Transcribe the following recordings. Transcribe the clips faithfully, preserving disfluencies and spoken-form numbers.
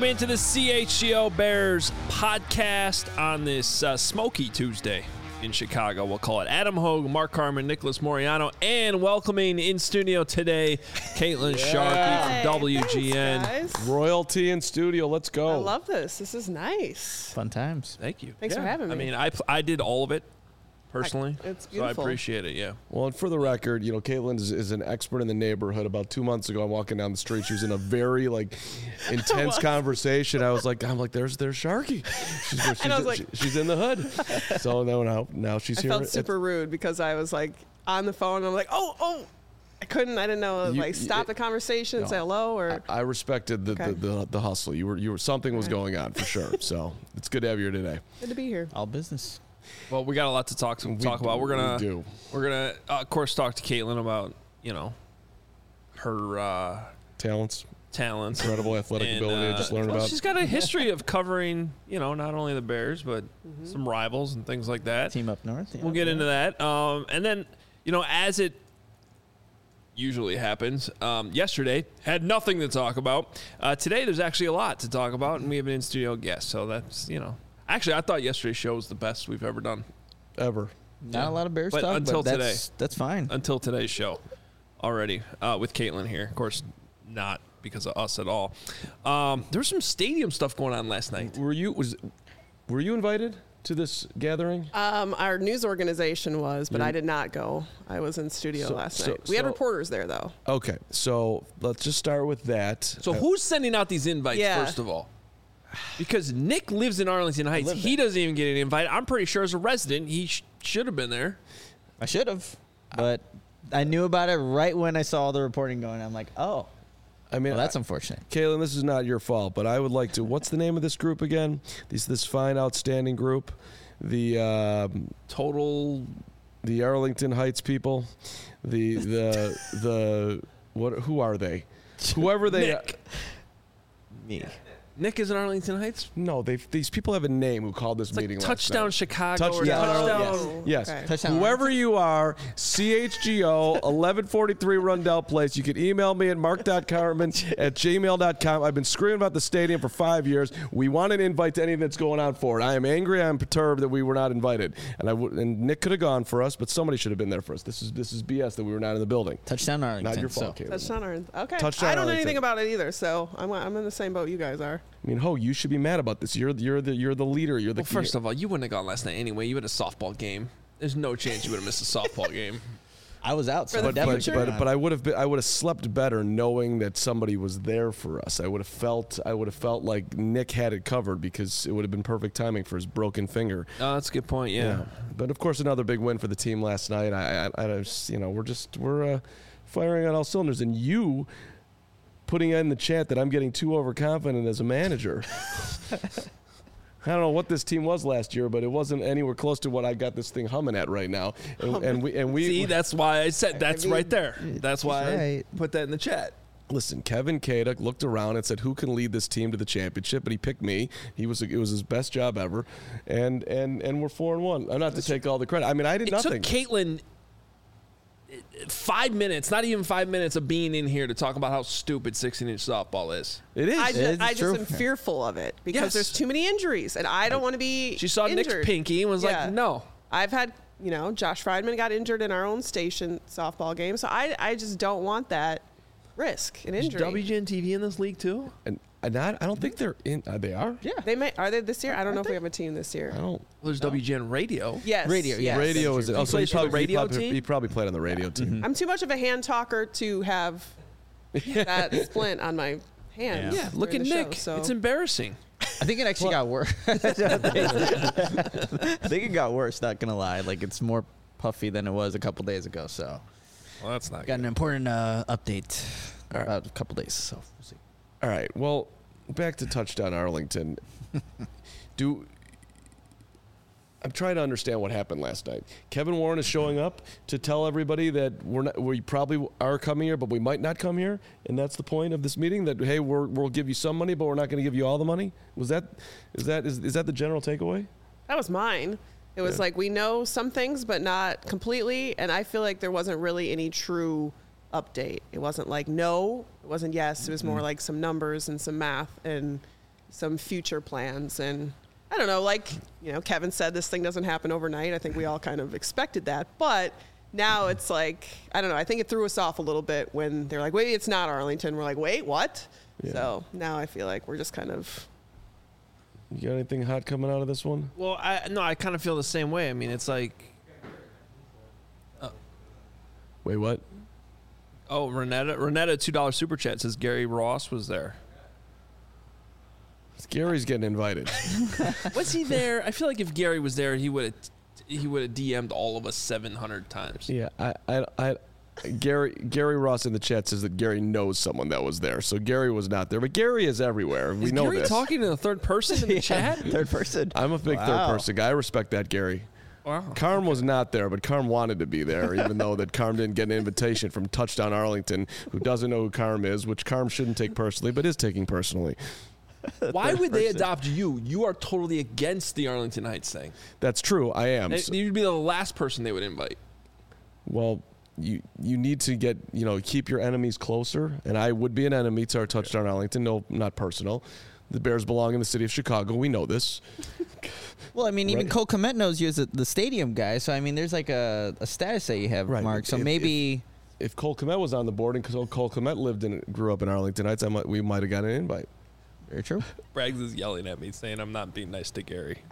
Welcome into the C H G O Bears podcast on this uh, smoky Tuesday in Chicago. We'll call it Adam Hogue, Mark Carman, Nicholas Moriano, and welcoming in studio today, Caitlin yeah. Sharkey from W G N. Thanks, Royalty in studio. Let's go. I love this. This is nice. Fun times. Thank you. Thanks yeah. for having me. I mean, I I did all of it personally, I, it's so beautiful. I appreciate it. Yeah. Well, and for the record, you know, Caitlin is, is an expert in the neighborhood. About two months ago, I'm walking down the street. She was in a very like intense conversation. I was like, I'm like, there's there's Sharky. She's, she's, and I was like, she, she's in the hood. So now now, now she's I here. felt super rude because I was like on the phone. And I'm like, oh oh, I couldn't. I didn't know You- like stop it- the conversation, and no. say hello, or I respected the, Okay. the, the the hustle. You were you were something was Okay. going on for sure. So it's good to have you here today. good to be here. All business. Well, we got a lot to talk to We talk do- about. We're gonna we do. we're gonna uh, of course talk to Caitlin about you know her uh, Talents, talents, incredible athletic and, ability. uh, I just learned well, about. She's got a history of covering you know not only the Bears but Mm-hmm. some rivals and things like that. Team up north. Yeah. We'll get into that. Um, and then, you know, as it usually happens, um, yesterday had nothing to talk about. Uh, today, there's actually a lot to talk about, and we have an in-studio guest. So that's, you know, actually, I thought yesterday's show was the best we've ever done Ever. Not Yeah. a lot of Bears But talk, until but that's, that's fine. until today's show already uh, with Caitlin here. Of course, not because of us at all. Um, there was some stadium stuff going on last night. Were you was were you invited to this gathering? Um, our news organization was, but You're- I did not go. I was in studio So- last so- night. We had so- reporters there though. Okay, so let's just start with that. So Uh, who's sending out these invites, Yeah. first of all? Because Nick lives in Arlington Heights. live He there. doesn't even get an invite. I'm pretty sure as a resident, he sh- should have been there. I should have, but I knew about it right when I saw the reporting going. I'm like, oh, I mean, well, that's I- unfortunate. Kaylin, this is not your fault, but I would like to. What's the name of this group again? This this fine, outstanding group, the um, Total. the Arlington Heights people, the the the what? Who are they? Whoever they. Nick. Me. Nick is in Arlington Heights. No, they these people have a name who called this It's like meeting. last Touchdown night. Chicago or Touchdown. Touchdown. Yes. Okay. Touchdown. Whoever you are, C H G O, eleven forty-three Rundell Place. You can email me at mark dot carman at gmail dot com. I've been screaming about the stadium for five years. We want an invite to anything that's going on for it. I am angry. I am perturbed that we were not invited. And I w- and Nick could have gone for us, but somebody should have been there for us. This is this is B S that we were not in the building. Touchdown Arlington. Not your fault, so. Caleb. Touchdown or okay. Touchdown I don't know Arlington. anything about it either, so I'm I'm in the same boat you guys are. I mean, Ho, you should be mad about this. You're you're the you're the leader. You're the Well, first of all, you wouldn't have gone last night anyway. You had a softball game. There's no chance you would have missed a softball game. I was out, so For the I definitely but, should but, have but I would have been, I would have slept better knowing that somebody was there for us. I would have felt I would have felt like Nick had it covered because it would have been perfect timing for his broken finger. Oh, that's a good point. Yeah. But of course, another big win for the team last night. I, I, I just, you know, we're just we're uh, firing on all cylinders, and you putting in the chat that I'm getting too overconfident as a manager. I don't know what this team was last year, but it wasn't anywhere close to what I got this thing humming at right now. And, and we and we See, that's why I said that's mean, right there. That's why I right. put that in the chat. Listen, Kevin Kaduk looked around and said, "Who can lead this team to the championship?" But he picked me. He was it was his best job ever, and and and we're four and one. I'm not to take all the credit. I mean, I did It nothing. took Caitlin five minutes, not even five minutes of being in here to talk about how stupid sixteen-inch softball is. It is. I It just, is I just true. am fearful of it because Yes. there's too many injuries, and I don't want to be. She saw injured. Nick's pinky and was Yeah. like, no. I've had, you know, Josh Friedman got injured in our own station softball game, so I, I just don't want that risk an Is injury. W G N T V in this league too? and, and I, I don't think they're in. Uh, they are. Yeah. They may are they this year? I don't know if we have a team this year. I don't. Well, there's W G N Radio. Yes, Radio, yes. Radio is. He Oh, so he plays for the probably, he radio probably, team? he probably played on the radio team. I'm too much of a hand talker to have that splint on my hand. Yeah, look at during the Nick. show, so. It's embarrassing. I think it actually got worse. I think it got worse, not going to lie. Like, it's more puffy than it was a couple days ago, so. Well, that's not Got an important uh, update All right. about a couple days, so we'll see. All right. Well, back to touchdown Arlington. Do I'm trying to understand what happened last night. Kevin Warren is showing up to tell everybody that we're not, we probably are coming here, but we might not come here, and that's the point of this meeting. That hey, we're, we'll give you some money, but we're not going to give you all the money. Was that is that is, is that the general takeaway? That was mine. It was Yeah. like we know some things, but not completely. And I feel like there wasn't really any true update. It wasn't like no, it wasn't yes. It was more like some numbers and some math. And some future plans. And I don't know, like, you know, Kevin said, this thing doesn't happen overnight. I think we all kind of expected that. But now it's like, I don't know, I think it threw us off a little bit when they're like, wait, it's not Arlington. We're like, wait, what? Yeah. So now I feel like we're just kind of. You got anything hot coming out of this one? Well, I no, I kind of feel the same way. I mean, it's like, Wait, what? oh, Renetta, Renetta, two dollar super chat says Gary Ross was there. Gary's getting invited. Was he there? I feel like if Gary was there, he would have he would have D M'd all of us seven hundred times. Yeah, I, I, I, Gary, Gary Ross in the chat says that Gary knows someone that was there. So Gary was not there, but Gary is everywhere. We Is know Gary this. talking to the third person in the Yeah, chat? third person. I'm a big Wow. third person guy. I respect that, Gary. Wow. Carm was not there, but Carm wanted to be there, even though that Carm didn't get an invitation from Touchdown Arlington, who doesn't know who Carm is, which Carm shouldn't take personally, but is taking personally. Why would they adopt you? You are totally against the Arlington Heights thing. That's true. I am. And you'd be the last person they would invite. Well, you you need to get, you know, keep your enemies closer, and I would be an enemy to our Touchdown Arlington. No, not personal. The Bears belong in the city of Chicago. We know this. Well, I mean, even Right. Cole Kmet knows you as a, the stadium guy. So, I mean, there's like a, a status that you have, Right. Mark. So If- maybe. If Cole Kmet was on the board and Cole Cole Kmet lived and grew up in Arlington Heights, I might, we might have got an invite. Very true. Braggs is yelling at me saying I'm not being nice to Gary.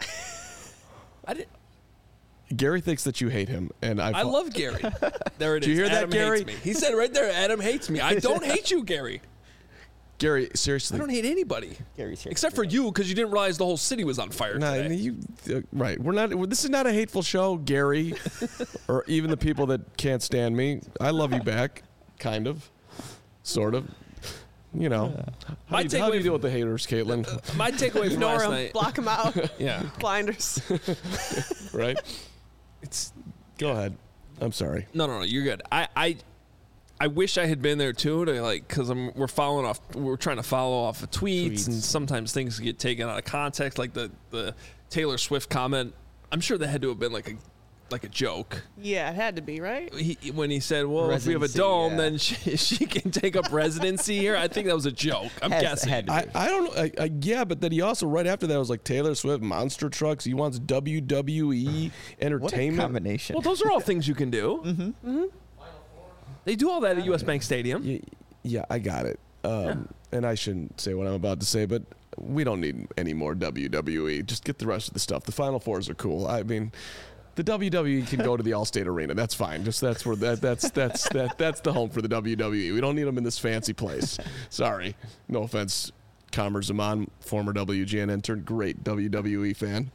I did. Gary thinks that you hate him, and I I love Gary. There it is. Did you hear that, Adam Gary? Hates me. He said right there, Adam hates me. I don't hate you, Gary. Gary. I Seriously, don't hate anybody. Gary's here. Except for you, because you didn't realize the whole city was on fire Nah, today. you, uh, right. We're not. This is not a hateful show, Gary, or even the people that can't stand me. I love you back, kind of, sort of. You know, how, My do you, how do you takeaway deal with the haters, Caitlin? My takeaway from Ignore last them, night. block them out, Yeah. blinders. Right? It's Go ahead. I'm sorry. no, no, no. You're good. I, I, I wish I had been there too. To like, because I'm we're following off. We're trying to follow off of tweets, Tweets. and sometimes things get taken out of context. Like the the Taylor Swift comment. I'm sure that had to have been like a like a joke. Yeah, it had to be, right? He, when he said, "Well, if we have a Residency, dome, yeah. then she, she can take up residency here." I think that was a joke. I'm Has- guessing. had to I, I don't know. I, I, yeah, but then he also, right after that, was like Taylor Swift, monster trucks. He wants W W E What a entertainment. combination. Well, those are all things you can do. Mm-hmm. Mm-hmm. They do all that at U S Bank Stadium. Yeah, yeah, I got it. Um, And I shouldn't say what I'm about to say, but we don't need any more W W E. Just get the rest of the stuff. The Final Fours are cool. I mean, the W W E can go to the Allstate Arena. That's fine. Just that's where that that's that's that that's the home for the W W E. We don't need them in this fancy place. Sorry, no offense, Kamer Zaman, former W G N intern, great W W E fan.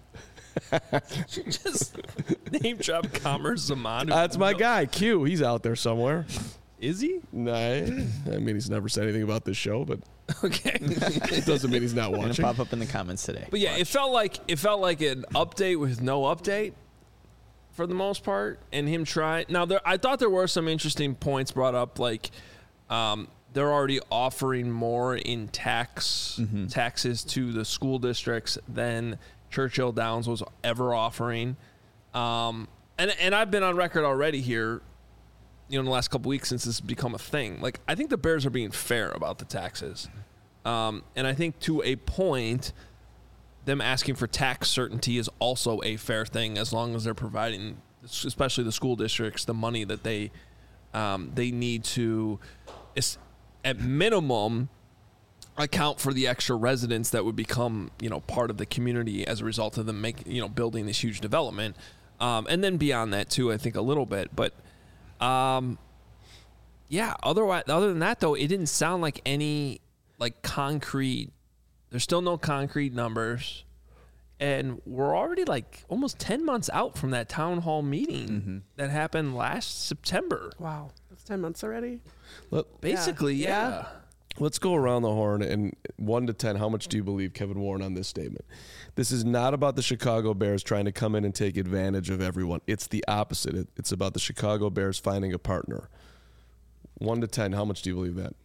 Just name drop Commerce Zaman. That's my guy, Q. He's out there somewhere. Is he? Nah, I mean, he's never said anything about this show, but Okay. it doesn't mean he's not Gonna watching. pop up in the comments today. But yeah, it felt like it felt like an update with no update for the most part, and him trying. Now, there, I thought there were some interesting points brought up, like um, they're already offering more in tax Mm-hmm. taxes to the school districts than Churchill Downs was ever offering. Um, and and I've been on record already here, you know, in the last couple weeks since this has become a thing. Like, I think the Bears are being fair about the taxes. Um, and I think to a point, them asking for tax certainty is also a fair thing as long as they're providing, especially the school districts, the money that they um, they need to, is, at minimum, account for the extra residents that would become, you know, part of the community as a result of them making, you know, building this huge development. Um, and then beyond that too, I think a little bit, but um, yeah, otherwise, other than that though, it didn't sound like any like concrete, there's still no concrete numbers. And we're already like almost ten months out from that town hall meeting Mm-hmm. that happened last September. Wow, that's ten months already. Let, Basically, yeah. Yeah. Let's go around the horn, and one to ten, how much do you believe Kevin Warren on this statement? This is not about the Chicago Bears trying to come in and take advantage of everyone. It's the opposite. It, it's about the Chicago Bears finding a partner. One to ten, how much do you believe that?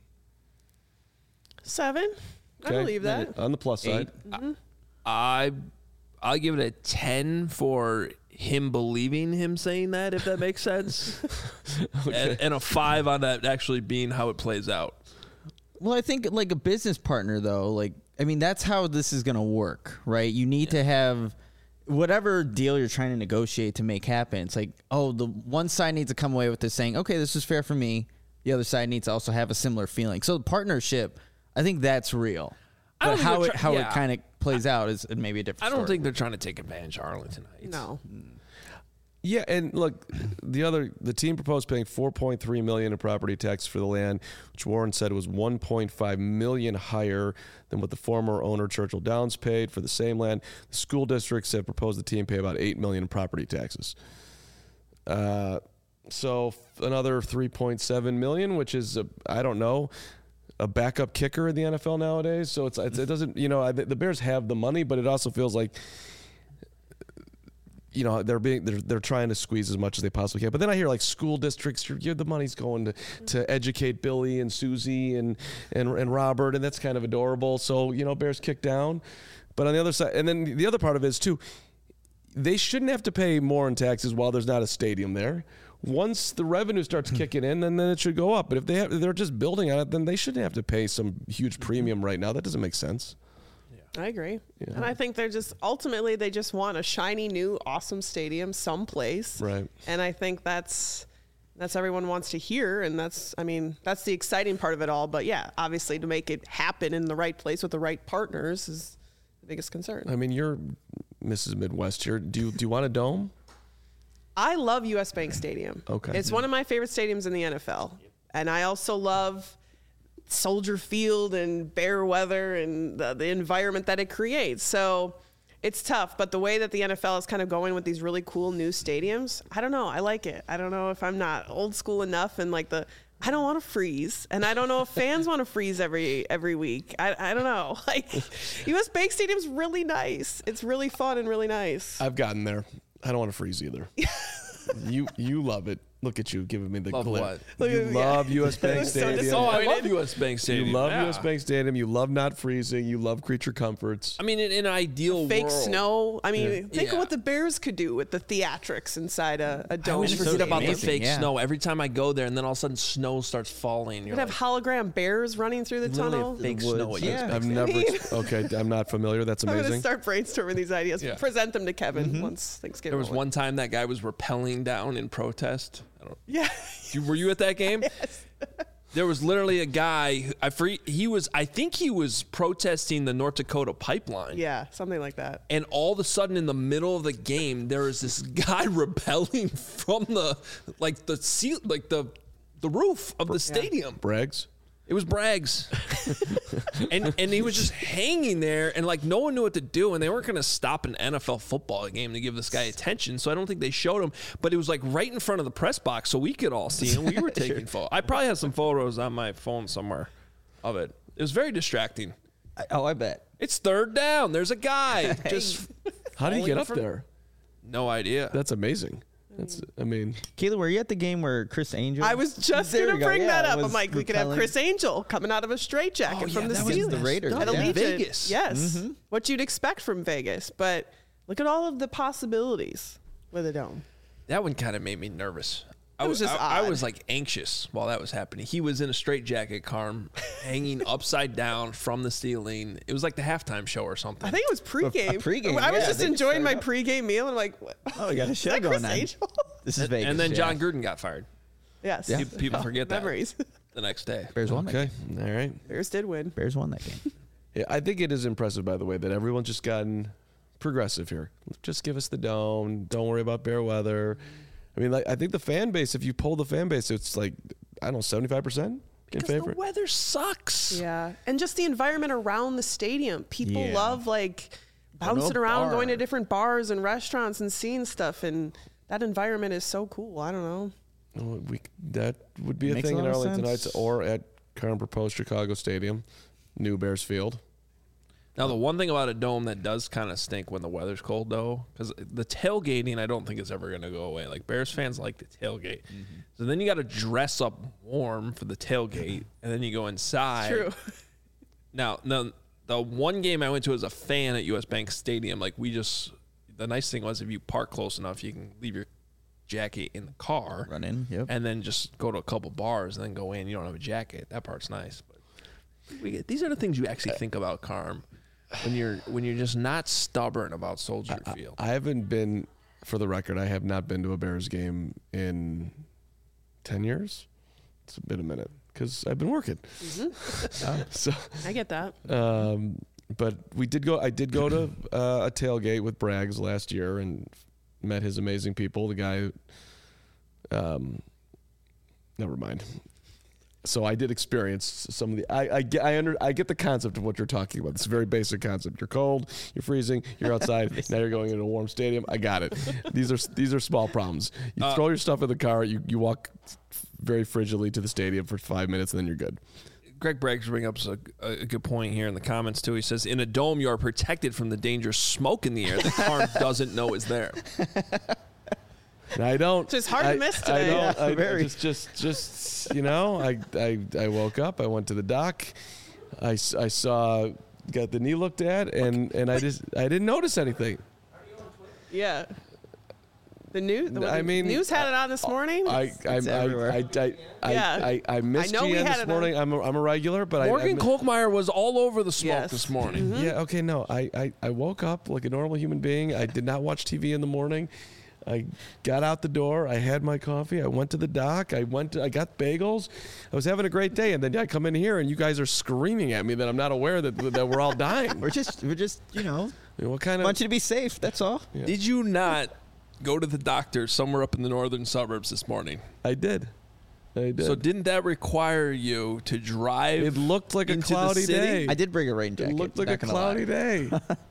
Seven. I believe that. On the plus side. I I'll give it a ten for him believing him saying that, if that makes sense. and, and a five on that actually being how it plays out. Well, I think like a business partner though, like I mean, that's how this is going to work, right? You need yeah. to have whatever deal you're trying to negotiate to make happen. It's like, oh, the one side needs to come away with this saying, okay, this is fair for me. The other side needs to also have a similar feeling. So the partnership, I think that's real. But how it, how yeah. it kind of plays out is maybe a different I don't story. think they're trying to take advantage of Arlington Heights. No. Yeah, and look, the other the team proposed paying four point three million dollars in property tax for the land, which Warren said was one point five million dollars higher than what the former owner Churchill Downs paid for the same land. The school districts have proposed the team pay about eight million dollars in property taxes. Uh, so another three point seven million dollars, which is a, I don't know. a backup kicker in the N F L nowadays. So it's, it's it doesn't, you know, the Bears have the money, but it also feels like, you know, they're being they're they're trying to squeeze as much as they possibly can. But then I hear like school districts, you're, you're, the money's going to, to educate Billy and Susie and, and and Robert, and that's kind of adorable. So, you know, Bears kick down. But on the other side, and then the other part of it is too, they shouldn't have to pay more in taxes while there's not a stadium there. Once the revenue starts kicking in, then, then it should go up. But if they have, if they're just building on it, then they shouldn't have to pay some huge premium right now. That doesn't make sense. I agree. Yeah. And I think they're just, ultimately, they just want a shiny, new, awesome stadium someplace. Right. And I think that's, that's everyone wants to hear. And that's, I mean, that's the exciting part of it all. But yeah, obviously to make it happen in the right place with the right partners is the biggest concern. I mean, you're Missus Midwest here. Do you, do you want a dome? I love U S Bank Stadium. Okay. It's one of my favorite stadiums in the N F L. And I also love Soldier Field and Bear weather and the, the environment that it creates. So it's tough, but the way that the N F L is kind of going with these really cool new stadiums, I don't know. I like it. I don't know if I'm not old school enough and like the, I don't want to freeze. And I don't know if fans want to freeze every every week. I, I don't know. Like U S Bank Stadium's really nice. It's really fun and really nice. I've gotten there. I don't want to freeze either. you you love it. Look at you giving me the love glare. What? You yeah. love U S Bank So Stadium. Oh, I love disappointed. U S Bank Stadium. You love yeah. U S Bank Stadium. You love not freezing. You love creature comforts. I mean, in, in an ideal Fake world, snow. I mean, Yeah. think Yeah. of what the Bears could do with the theatrics inside a, a I dome. always It's forget so about the amazing, fake yeah. snow every time I go there, and then all of a sudden snow starts falling. You're You'd like, have hologram bears running through the literally tunnel. a fake The snow. woods, at U S yeah. Bank I've Stadium. never. Okay, I'm not familiar. That's I'm going to amazing. start brainstorming these ideas. Yeah. Present them to Kevin once things get There was rolling. one time that guy was rappelling down in protest. I don't, Yeah. you, were you at that game? Yes. There was literally a guy. Who, I free, he was. I think he was protesting the North Dakota pipeline. Yeah, something like that. And all of a sudden, in the middle of the game, there was this guy rappelling from the like the seal, like the the roof of the stadium. Braggs. It was Braggs, and and he was just hanging there, and like no one knew what to do, and they weren't going to stop an N F L football game to give this guy attention, so I don't think they showed him. But it was like right in front of the press box, so we could all see him. We were taking photos. I probably have some photos on my phone somewhere of it. It was very distracting. I, oh, I bet. It's third down. There's a guy. Just How did he get Falling up from- there? no idea. That's amazing. That's. I mean, Kayla, were you at the game where Chris Angel? I was just There going we to go. bring Yeah, that it up. I'm was like, we could have repelling. Chris Angel coming out of a straitjacket Oh, from yeah, the that was ceiling. the Raiders, At yeah. Allegiant. Vegas. Yes. What you'd expect from Vegas. But look at all of the possibilities with a dome. That one kind of made me nervous. I It was just I, I odd. was like anxious while that was happening. He was in a straitjacket, Carm, hanging upside down from the ceiling. It was like the halftime show or something. I think it was pregame. pregame, I was yeah, just they enjoying my started pregame meal. And I'm like, what? Oh, we got a Is show that going Chris on. Angel? This is Vegas. and then John yeah. Gruden got fired. Yes. Yeah. Pe- People forget that Memories. the next day. Bears won that okay, game. all right. Bears did win. Bears won that game. Yeah, I think it is impressive, by the way, that everyone's just gotten progressive here. Just give us the dome. Don't worry about bear weather. I mean, like I think the fan base. If you poll the fan base, it's like I don't know, seventy-five percent in Because favor. the weather sucks. Yeah. And just the environment around the stadium. People Yeah. love like Go to a bouncing around, bar. going to different bars and restaurants and seeing stuff. And that environment is so cool. I don't know. Oh, we that would be a Makes thing a in lot of Arlington sense. Heights or at current proposed Chicago Stadium, new Bears Field. Now, the one thing about a dome that does kind of stink when the weather's cold, though, because the tailgating, I don't think is ever going to go away. Like, Bears fans like to tailgate. Mm-hmm. So then you got to dress up warm for the tailgate, and then you go inside. True. Now, now, the one game I went to as a fan at U S Bank Stadium, like, we just, the nice thing was if you park close enough, you can leave your jacket in the car. Run in. Yep. And then just go to a couple bars and then go in. You don't have a jacket. That part's nice. But We, these are the things you actually think about, Carm, when you're when you're just not stubborn about Soldier Field. I haven't been, for the record, I have not been to a Bears game in ten years. It's been a minute because I've been working. Mm-hmm. uh, so I get that. Um, but we did go. I did go to uh, a tailgate with Braggs last year and met his amazing people. The guy. Um, never mind. So I did experience some of the. I I get I under I get the concept of what you're talking about. It's a very basic concept. You're cold. You're freezing. You're outside. Now you're going into a warm stadium. I got it. These are these are small problems. You Uh, throw your stuff in the car. You you walk very frigidly to the stadium for five minutes, and then you're good. Greg Braggs bring up a, a good point here in the comments too. He says, "In a dome, you are protected from the dangerous smoke in the air that Carm doesn't know is there." And I don't. So it's hard I, to miss I today. don't. Yeah, I, very. Just, just, just. You know, I, I, I woke up. I went to the doc. I, s- I saw, got the knee looked at, and, and I just, I didn't notice anything. Yeah. The news. The, I the mean, news had it on this morning. I, I, It's I, everywhere. I, I, I, Yeah. I, I missed I know we G N had this it morning. on. I'm, a, I'm a regular, but Morgan I, I, Kolkmeyer was all over the smoke Yes. this morning. Yeah. Okay. No. I, I, I woke up like a normal human being. I did not watch T V in the morning. I got out the door. I had my coffee. I went to the dock. I went. To, I got bagels. I was having a great day, and then I come in here, and you guys are screaming at me that I'm not aware that that we're all dying. We're just, we're just, you know, I mean, what kind of? want you to be safe. That's all. Yeah. Did you not go to the doctor somewhere up in the northern suburbs this morning? I did. I did. So didn't that require you to drive? it looked like a into the cloudy city? day. I did bring a rain It jacket. looked like not a gonna lie. cloudy day.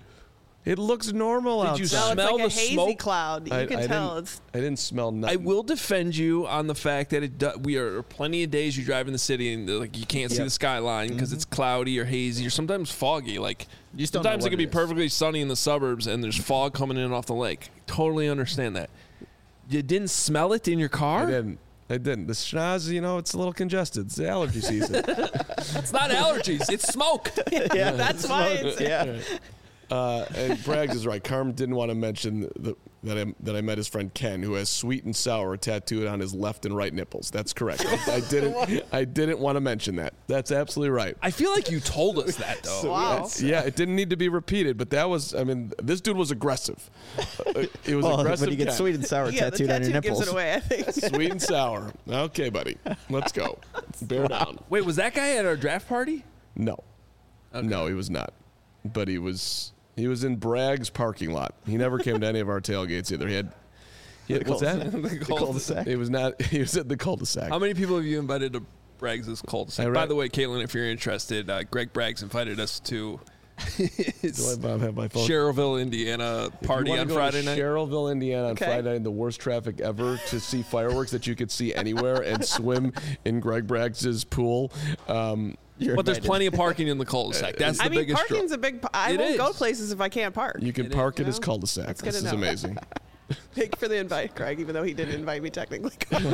It looks normal Did you outside. no, it's smell like a the hazy smoke? cloud. You I- can I tell didn't- it's. I didn't smell I nothing. will defend you on the fact that it do, we are plenty of days you drive in the city and like you can't see Yep. the skyline because it's cloudy or hazy or sometimes foggy. Like You just don't know sometimes it what can it be is. perfectly sunny in the suburbs and there's fog coming in off the lake. Totally understand that. You didn't smell it in your car? I didn't. I didn't. The schnoz, you know, it's a little congested. It's the allergy season. It's not allergies. It's smoke. Yeah, that's why. It's, Yeah. Uh, and Braggs is right. Carm didn't want to mention the, that I that I met his friend Ken, who has sweet and sour tattooed on his left and right nipples. That's correct. I, I didn't. I didn't want to mention that. That's absolutely right. I feel like you told us that though. Wow. Yeah, it didn't need to be repeated, but that was. I mean, this dude was aggressive. Uh, It was Well, aggressive. when you get Ken. sweet and sour yeah, the tattooed on your tattoo gives nipples. it away. I think. Sweet and sour. Okay, buddy. Let's go. Bear down. Wait, was that guy at our draft party? No. No, he was not. But he was he was in Bragg's parking lot. He never came to any of our tailgates either. He had, he had what's that? The cul-de-sac. It was not he was at the cul-de-sac. How many people have you invited to Braggs' cul-de-sac? I read- By the way, Caitlin, if you're interested, uh, Greg Braggs invited us to Do his I have my phone? Sherrillville, Indiana If you party wanna on go Friday to night. Sherrillville, Indiana on Okay. Friday night in the worst traffic ever to see fireworks that you could see anywhere and swim in Greg Braggs' pool. Um, You're But there's invited. plenty of parking in the cul-de-sac. That's the I mean, biggest draw. parking's a big. p- I It won't go is. places if I can't park. you can It park is. at his No. cul-de-sac. That's good This to is know. amazing. Thank you for the invite, Craig. Even though he didn't invite me technically.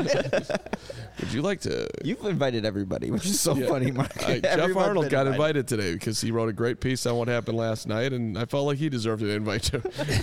Would you like to? You've invited everybody, which is so Yeah. funny, Mark. Uh, Jeff Everyone's Arnold been got invited today because he wrote a great piece on what happened last night, and I felt like he deserved an invite too.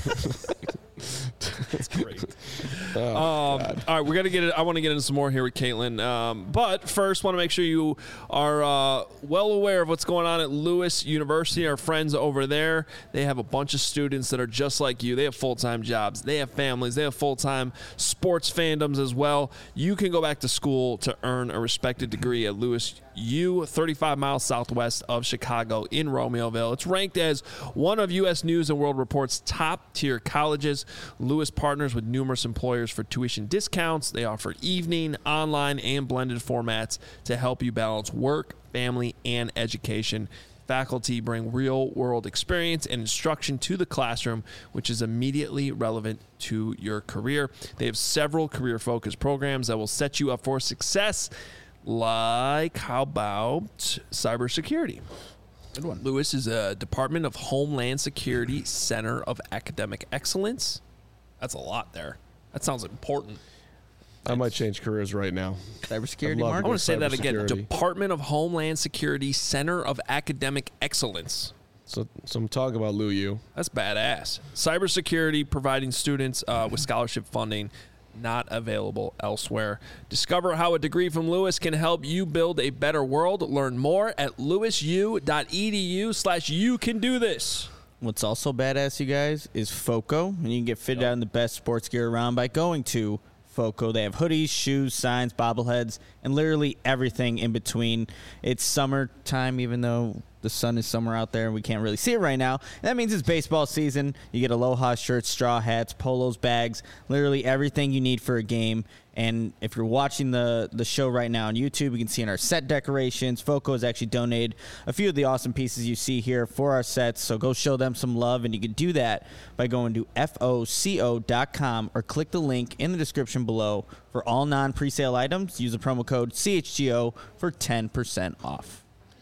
That's great. Oh, Um, God. all right, we got to get it. I want to get into some more here with Caitlin. Um, but first, want to make sure you are uh, well aware of what's going on at Lewis University. Our friends over there, they have a bunch of students that are just like you. They have full-time jobs. They have families. They have full-time sports fandoms as well. You can go back to school to earn a respected degree at Lewis U, thirty-five miles southwest of Chicago in Romeoville. It's ranked as one of U S News and World Report's top-tier colleges. Lewis partners with numerous employers for tuition discounts. They offer evening, online, and blended formats to help you balance work, family, and education. Faculty bring real-world experience and instruction to the classroom, which is immediately relevant to your career. They have several career-focused programs that will set you up for success, like how about cybersecurity? Good one. Lewis is a Department of Homeland Security Center of Academic Excellence. That's a lot there. That sounds important. I might change careers right now. Cybersecurity, I'd love Mark. I want to say that again. Cybersecurity. Department of Homeland Security Center of Academic Excellence. So, so I'm talking about Lou U. That's badass. Cybersecurity, providing students uh, with scholarship funding. not available elsewhere. Discover how a degree from Lewis can help you build a better world. Learn more at lewisu.edu slash you can do this. What's also badass, you guys, is FOCO, and you can get fitted out in the best sports gear around by going to FOCO. They have hoodies, shoes, signs, bobbleheads, and literally everything in between. It's summertime, even though the sun is somewhere out there and we can't really see it right now. And that means it's baseball season. You get Aloha shirts, straw hats, polos, bags, literally everything you need for a game. And if you're watching the, the show right now on YouTube, you can see in our set decorations, FOCO has actually donated a few of the awesome pieces you see here for our sets. So go show them some love, and you can do that by going to F O C O dot com or click the link in the description below. For all non-presale items, use the promo code C H G O for ten percent off.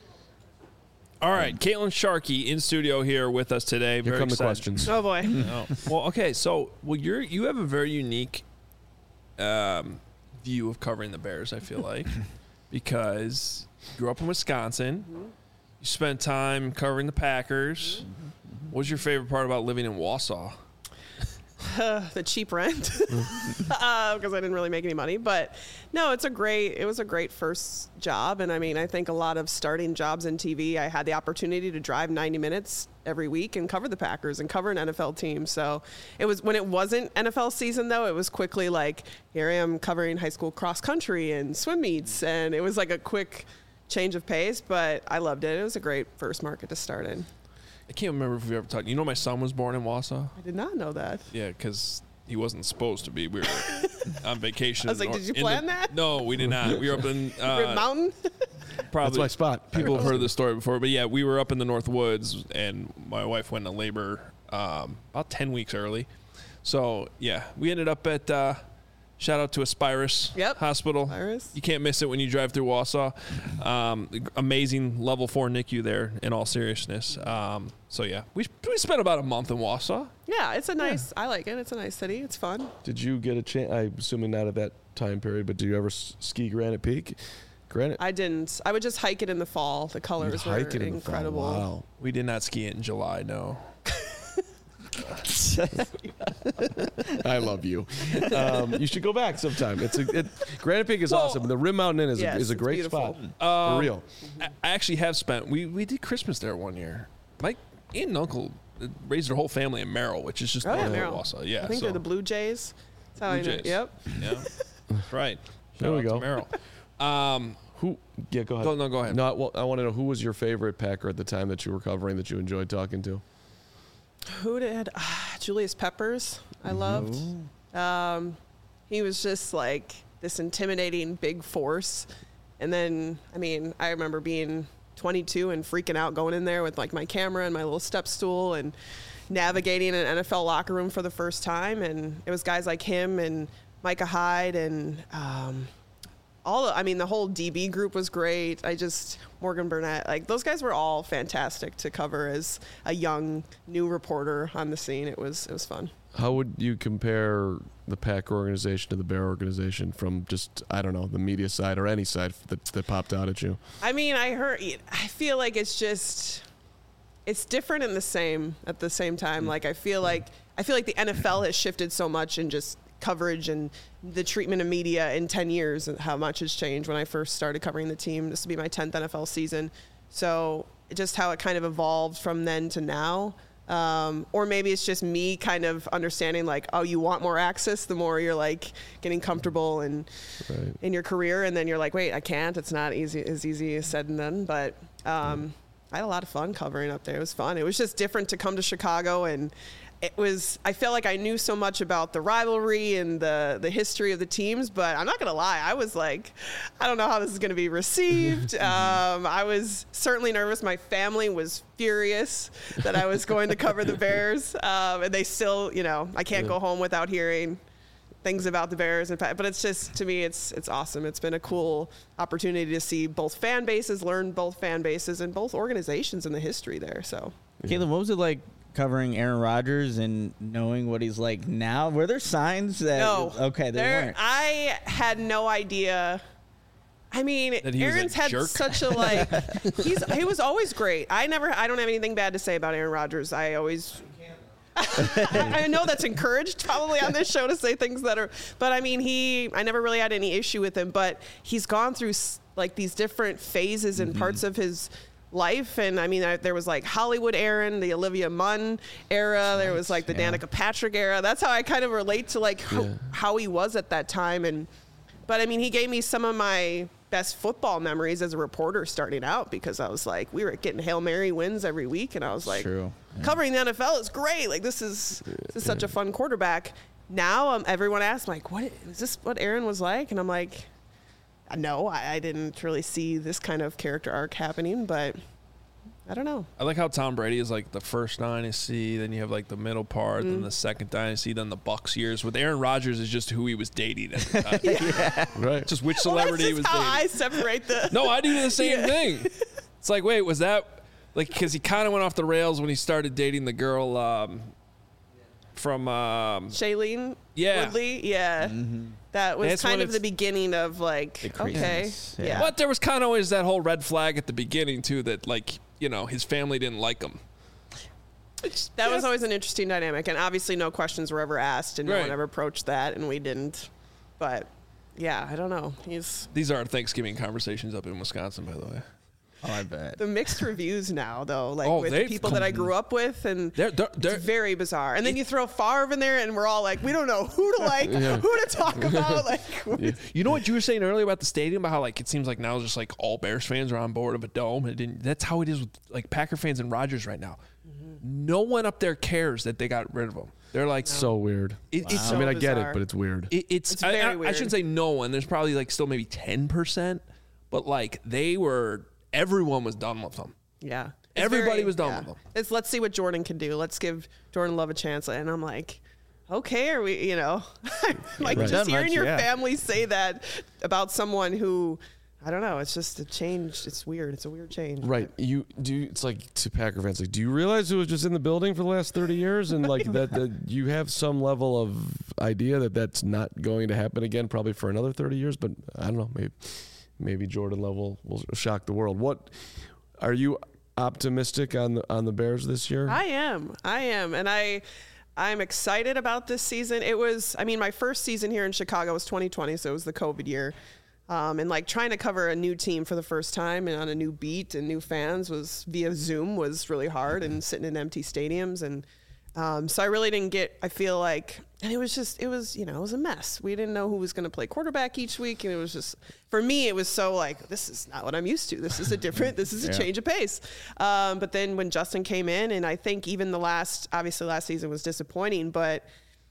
All right, Caitlin Sharkey in studio here with us today. Here Very come the excited. questions. Oh boy. Oh. Well, okay, so well, you're you have a very unique um, view of covering the Bears. I feel like because you grew up in Wisconsin, Mm-hmm. you spent time covering the Packers. Mm-hmm. What was your favorite part about living in Wausau? Uh, the cheap rent because uh, I didn't really make any money. But no, it's a great. It was a great first job, and I mean, I think a lot of starting jobs in T V, I had the opportunity to drive ninety minutes every week and cover the Packers and cover an N F L team. So it was when it wasn't N F L season though. It was quickly like here I am covering high school cross country and swim meets, and it was like a quick change of pace. But I loved it. It was a great first market to start in. I can't remember if we ever talked. You know, my son was born in Wausau. I did not know that. Yeah, because he wasn't supposed to be. We were on vacation. I was like, nor- did you in plan the- that? No, we did not. We were up in Rib uh, Mountain. probably That's my spot. People have heard this story before, but yeah, we were up in the North Woods, and my wife went into labor um, about ten weeks early. So yeah, we ended up at uh, shout out to Aspirus Yep. Hospital. Aspirus. You can't miss it when you drive through Wausau. Um, amazing level four N I C U there. In all seriousness, um, so yeah, we we spent about a month in Wausau. Yeah, it's a nice. I like it. It's a nice city. It's fun. Did you get a chance? I'm assuming not at that time period, but do you ever s- ski Granite Peak? Granite. I didn't. I would just hike it in the fall. The colors were Hike it in the fall. incredible. Wow. We did not ski it in July. No. I love you. Um, you should go back sometime. It's a it, Granite Peak is Well, awesome. The Rim Mountain Inn is, yes, a, is a it's great beautiful. spot. Um, For real. I I actually have spent. We we did Christmas there one year. My aunt and uncle raised their whole family in Merrill, which is just Oh yeah, north of Merrill. Wausau. Yeah, I think so, they're the Blue Jays. That's how Blue I know. Jays. Yep. Yeah, that's right. There Shout we out to go. Merrill. Um, Who? Yeah, go ahead. Go- no, go ahead. No, well, I want to know who was your favorite Packer at the time that you were covering that you enjoyed talking to. Who did? Ah, Julius Peppers. I loved. Um, he was just like this intimidating big force. And then, I mean, I remember being twenty-two and freaking out going in there with like my camera and my little step stool and navigating an N F L locker room for the first time. And it was guys like him and Micah Hyde and um, all, I mean, the whole D B group was great. I just, Morgan Burnett, like those guys were all fantastic to cover as a young new reporter on the scene. It was, it was fun. How would you compare the Packer organization to the Bear organization from just, I don't know, the media side or any side that, that popped out at you? I mean, I heard, I feel like it's just, it's different and the same at the same time. Like, I feel like, I feel like the N F L has shifted so much in just coverage and the treatment of media in ten years and how much has changed when I first started covering the team. This will be my tenth N F L season. So just how it kind of evolved from then to now. Um, or maybe it's just me kind of understanding like, oh, you want more access the more you're like getting comfortable and Right. in your career. And then you're like, wait, I can't. It's not easy as easy as said and done. But um, I had a lot of fun covering up there. It was fun. It was just different to come to Chicago, and it was, I felt like I knew so much about the rivalry and the, the history of the teams, but I'm not going to lie. I was like, I don't know how this is going to be received. um, I was certainly nervous. My family was furious that I was going to cover the Bears. Um, and they still, you know, I can't Yeah. go home without hearing things about the Bears. And but it's just, to me, it's it's awesome. It's been a cool opportunity to see both fan bases, learn both fan bases and both organizations in the history there. So Caitlin, what was it like covering Aaron Rodgers and knowing what he's like now? Were there signs that no, okay, there, there weren't. I had no idea. I mean, That he was a Aaron's had jerk? such a like. he's he was always great. I never. I don't have anything bad to say about Aaron Rodgers. I always. I know that's encouraged probably on this show to say things that are, but I mean, he, I never really had any issue with him, but he's gone through like these different phases and mm-hmm. parts of his life. And I mean, I, there was like Hollywood Aaron, the Olivia Munn era. There was like the yeah. Danica Patrick era. That's how I kind of relate to like how, yeah. how he was at that time. And, but I mean, he gave me some of my best football memories as a reporter starting out, because I was like, we were getting Hail Mary wins every week. And I was like, yeah. covering the N F L is great. Like this is, this is such a fun quarterback. Now um, everyone asks like, what is this what Aaron was like? And I'm like, no, I, I didn't really see this kind of character arc happening, but I don't know. I like how Tom Brady is like the first dynasty, then you have like the middle part, mm. then the second dynasty, then the Bucs years. With Aaron Rodgers is just who he was dating at the time. yeah. Right. Just which celebrity well, he was how dating. I separate the. No, I do the same yeah. thing. It's like, wait, was that like because he kind of went off the rails when he started dating the girl um, from um, Shailene yeah. Woodley? Yeah. Mm-hmm. That was That's kind of the beginning of like, okay. Yeah. yeah. But there was kind of always that whole red flag at the beginning too, that like, you know, his family didn't like him. It's, that yeah. was always an interesting dynamic. And obviously no questions were ever asked and right. no one ever approached that, and we didn't. But yeah, I don't know. He's These are Thanksgiving conversations up in Wisconsin, by the way. Oh, I bet. The mixed reviews now, though, like oh, with the people that I grew up with, and they're, they're, they're, it's very bizarre. And then you throw Favre in there, and we're all like, we don't know who to like, yeah. who to talk about. Like, yeah. You know what you were saying earlier about the stadium, about how like it seems like now just like all Bears fans are on board of a dome. It didn't. That's how it is with like Packer fans and Rodgers right now. Mm-hmm. No one up there cares that they got rid of him. They're like no. so weird. It, wow. It's I mean, so I get bizarre. it, but it's weird. It, it's, it's I, very I, weird. I shouldn't say no one. There's probably like still maybe ten percent, but like they were. Everyone was done with them. Yeah. It's Everybody very, was done yeah. with them. It's let's see what Jordan can do. Let's give Jordan Love a chance. And I'm like, okay, are we, you know, like right. just hearing much, your yeah. family say that about someone who, I don't know, it's just a change. It's weird. It's a weird change. Right. You do. It's like to Packer fans. Like, do you realize who was just in the building for the last thirty years, and like that, that you have some level of idea that that's not going to happen again, probably for another thirty years. But I don't know. Maybe, maybe Jordan Love will, will shock the world. What are you optimistic on the on the Bears this year? I am. I am, and I. I'm excited about this season. It was, I mean, my first season here in Chicago was twenty twenty, so it was the COVID year. Um, and like trying to cover a new team for the first time and on a new beat and new fans was via Zoom was really hard, and sitting in empty stadiums. And um, so I really didn't get, I feel like, and it was just, it was, you know, it was a mess. We didn't know who was going to play quarterback each week. And it was just, for me, it was so like, this is not what I'm used to. This is a different, this is a yeah. change of pace. Um, but then when Justin came in, and I think even the last, obviously last season was disappointing, but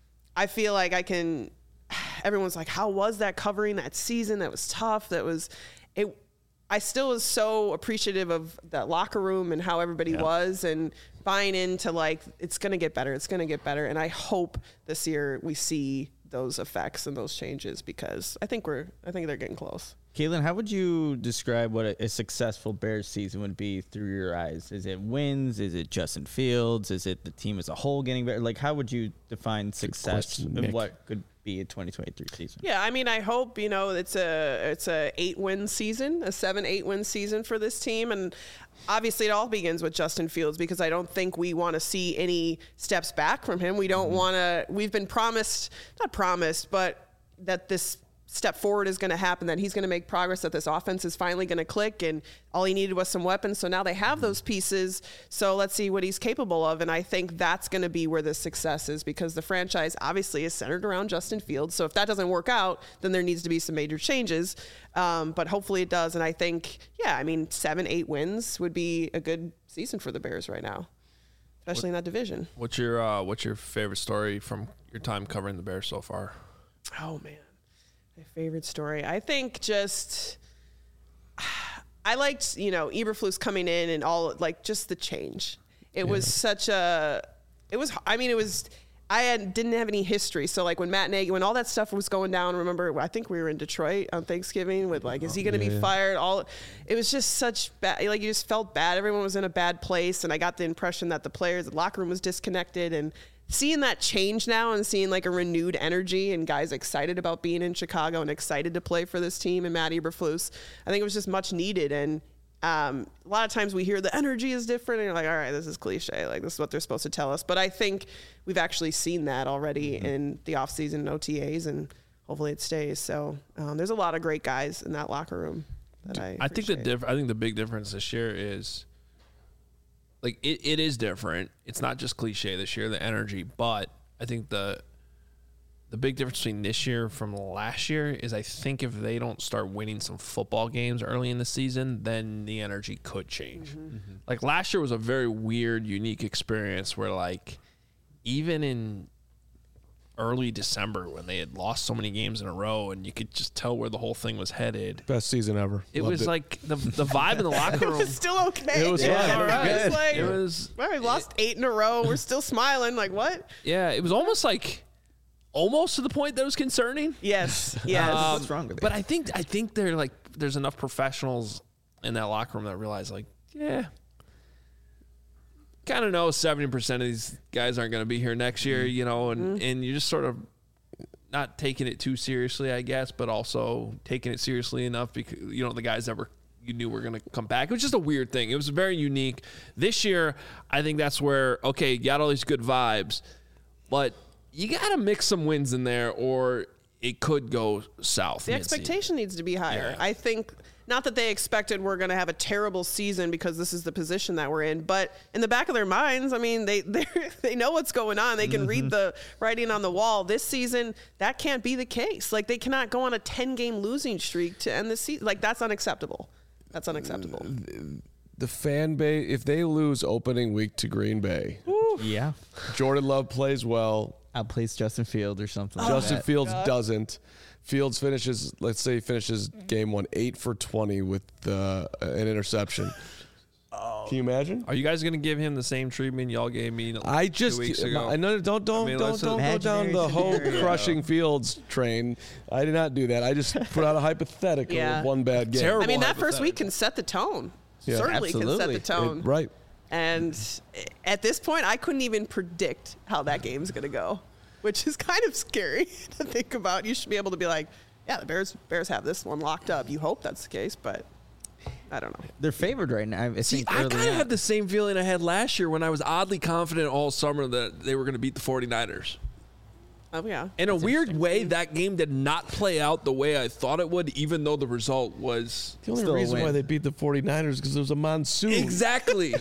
I feel like I can, everyone's like, how was that covering that season? That was tough. That was, it, I still was so appreciative of that locker room and how everybody yeah. was, and buying into like, it's going to get better. It's going to get better. And I hope this year we see those effects and those changes, because I think we're, I think they're getting close. Caitlin, how would you describe what a, a successful Bears season would be through your eyes? Is it wins? Is it Justin Fields? Is it the team as a whole getting better? Like, how would you define success and what could be a twenty twenty-three season? Yeah, I mean, I hope, you know, it's a it's a eight win season, a seven eight win season for this team, and obviously it all begins with Justin Fields, because I don't think we want to see any steps back from him. We don't mm-hmm. want to. We've been promised, not promised, but that this step forward is going to happen, that he's going to make progress, that this offense is finally going to click, and all he needed was some weapons. So now they have those pieces. So let's see what he's capable of. And I think that's going to be where the success is, because the franchise obviously is centered around Justin Fields. So if that doesn't work out, then there needs to be some major changes. Um, but hopefully it does. And I think, yeah, I mean, seven, eight wins would be a good season for the Bears right now, especially what, in that division. What's your, uh, what's your favorite story from your time covering the Bears so far? Oh, man. My favorite story, I think, just I liked, you know, Eberflus coming in and all, like, just the change. It yeah. was such a, it was, I mean, it was, I had, didn't have any history. So, like, when Matt Nagy, when all that stuff was going down, remember, I think we were in Detroit on Thanksgiving with, like, is he going to yeah, be yeah. fired? All, it was just such bad, like, you just felt bad. Everyone was in a bad place. And I got the impression that the players, the locker room was disconnected, and seeing that change now and seeing like a renewed energy and guys excited about being in Chicago and excited to play for this team and Matt Eberflus, I think it was just much needed. And Um, a lot of times we hear the energy is different, and you're like, all right, this is cliche. Like, this is what they're supposed to tell us. But I think we've actually seen that already mm-hmm. in the offseason and O T As, and hopefully it stays. So um, there's a lot of great guys in that locker room that I I think the diff- I think the big difference this year is, like, it, it is different. It's not just cliche this year, the energy, but I think the the big difference between this year from last year is I think if they don't start winning some football games early in the season, then the energy could change. Mm-hmm. Mm-hmm. Like last year was a very weird, unique experience where like even in early December when they had lost so many games in a row and you could just tell where the whole thing was headed. Best season ever. It Loved was it. like the the vibe in the locker room. It was still okay. It was Yeah, fine. all right. It was like, It was well, we lost eight in a row. We're still smiling. Like, what? yeah, it was almost like almost to the point that was concerning. Yes. Yes. Um, What's wrong with it? But I think I think they're like there's enough professionals in that locker room that realize like, yeah, kind of know seventy percent of these guys aren't going to be here next year, you know, and, Mm-hmm. and you just sort of not taking it too seriously, I guess, but also taking it seriously enough because, you know, the guys that were you knew were going to come back. It was just a weird thing. It was very unique. This year, I think that's where, okay, you got all these good vibes, but you got to mix some wins in there or it could go south. The mid-season. expectation needs to be higher. Yeah. I think not that they expected we're going to have a terrible season because this is the position that we're in, but in the back of their minds, I mean, they they they know what's going on. They can mm-hmm. read the writing on the wall. This season, that can't be the case. Like they cannot go on a ten-game losing streak to end the season. Like that's unacceptable. That's unacceptable. The fan base, if they lose opening week to Green Bay, Yeah. Jordan Love plays well. Outplays Justin Field or something. Justin like that. Fields God. doesn't. Fields finishes, let's say he finishes game one, eight for twenty with uh, an interception. Oh. Can you imagine? Are you guys going to give him the same treatment y'all gave me I two just, weeks ago? I know, don't, don't, I mean, don't, let's don't go down imaginary the whole scenario. crushing Fields train. I did not do that. I just put out a hypothetical Yeah. of one bad game. Terrible. I mean, that first hypothetical. week can set the tone. Yeah. Certainly can set Absolutely. the tone. It- right. And at this point, I couldn't even predict how that game's going to go, which is kind of scary to think about. You should be able to be like, yeah, the Bears Bears have this one locked up. You hope that's the case, but I don't know. They're favored right now. I See, think I early kind of on. had the same feeling I had last year when I was oddly confident all summer that they were going to beat the 49ers. Oh, yeah. In a weird way, that game did not play out the way I thought it would, even though the result was The only Still a reason win. why they beat the 49ers is because there was a monsoon. exactly.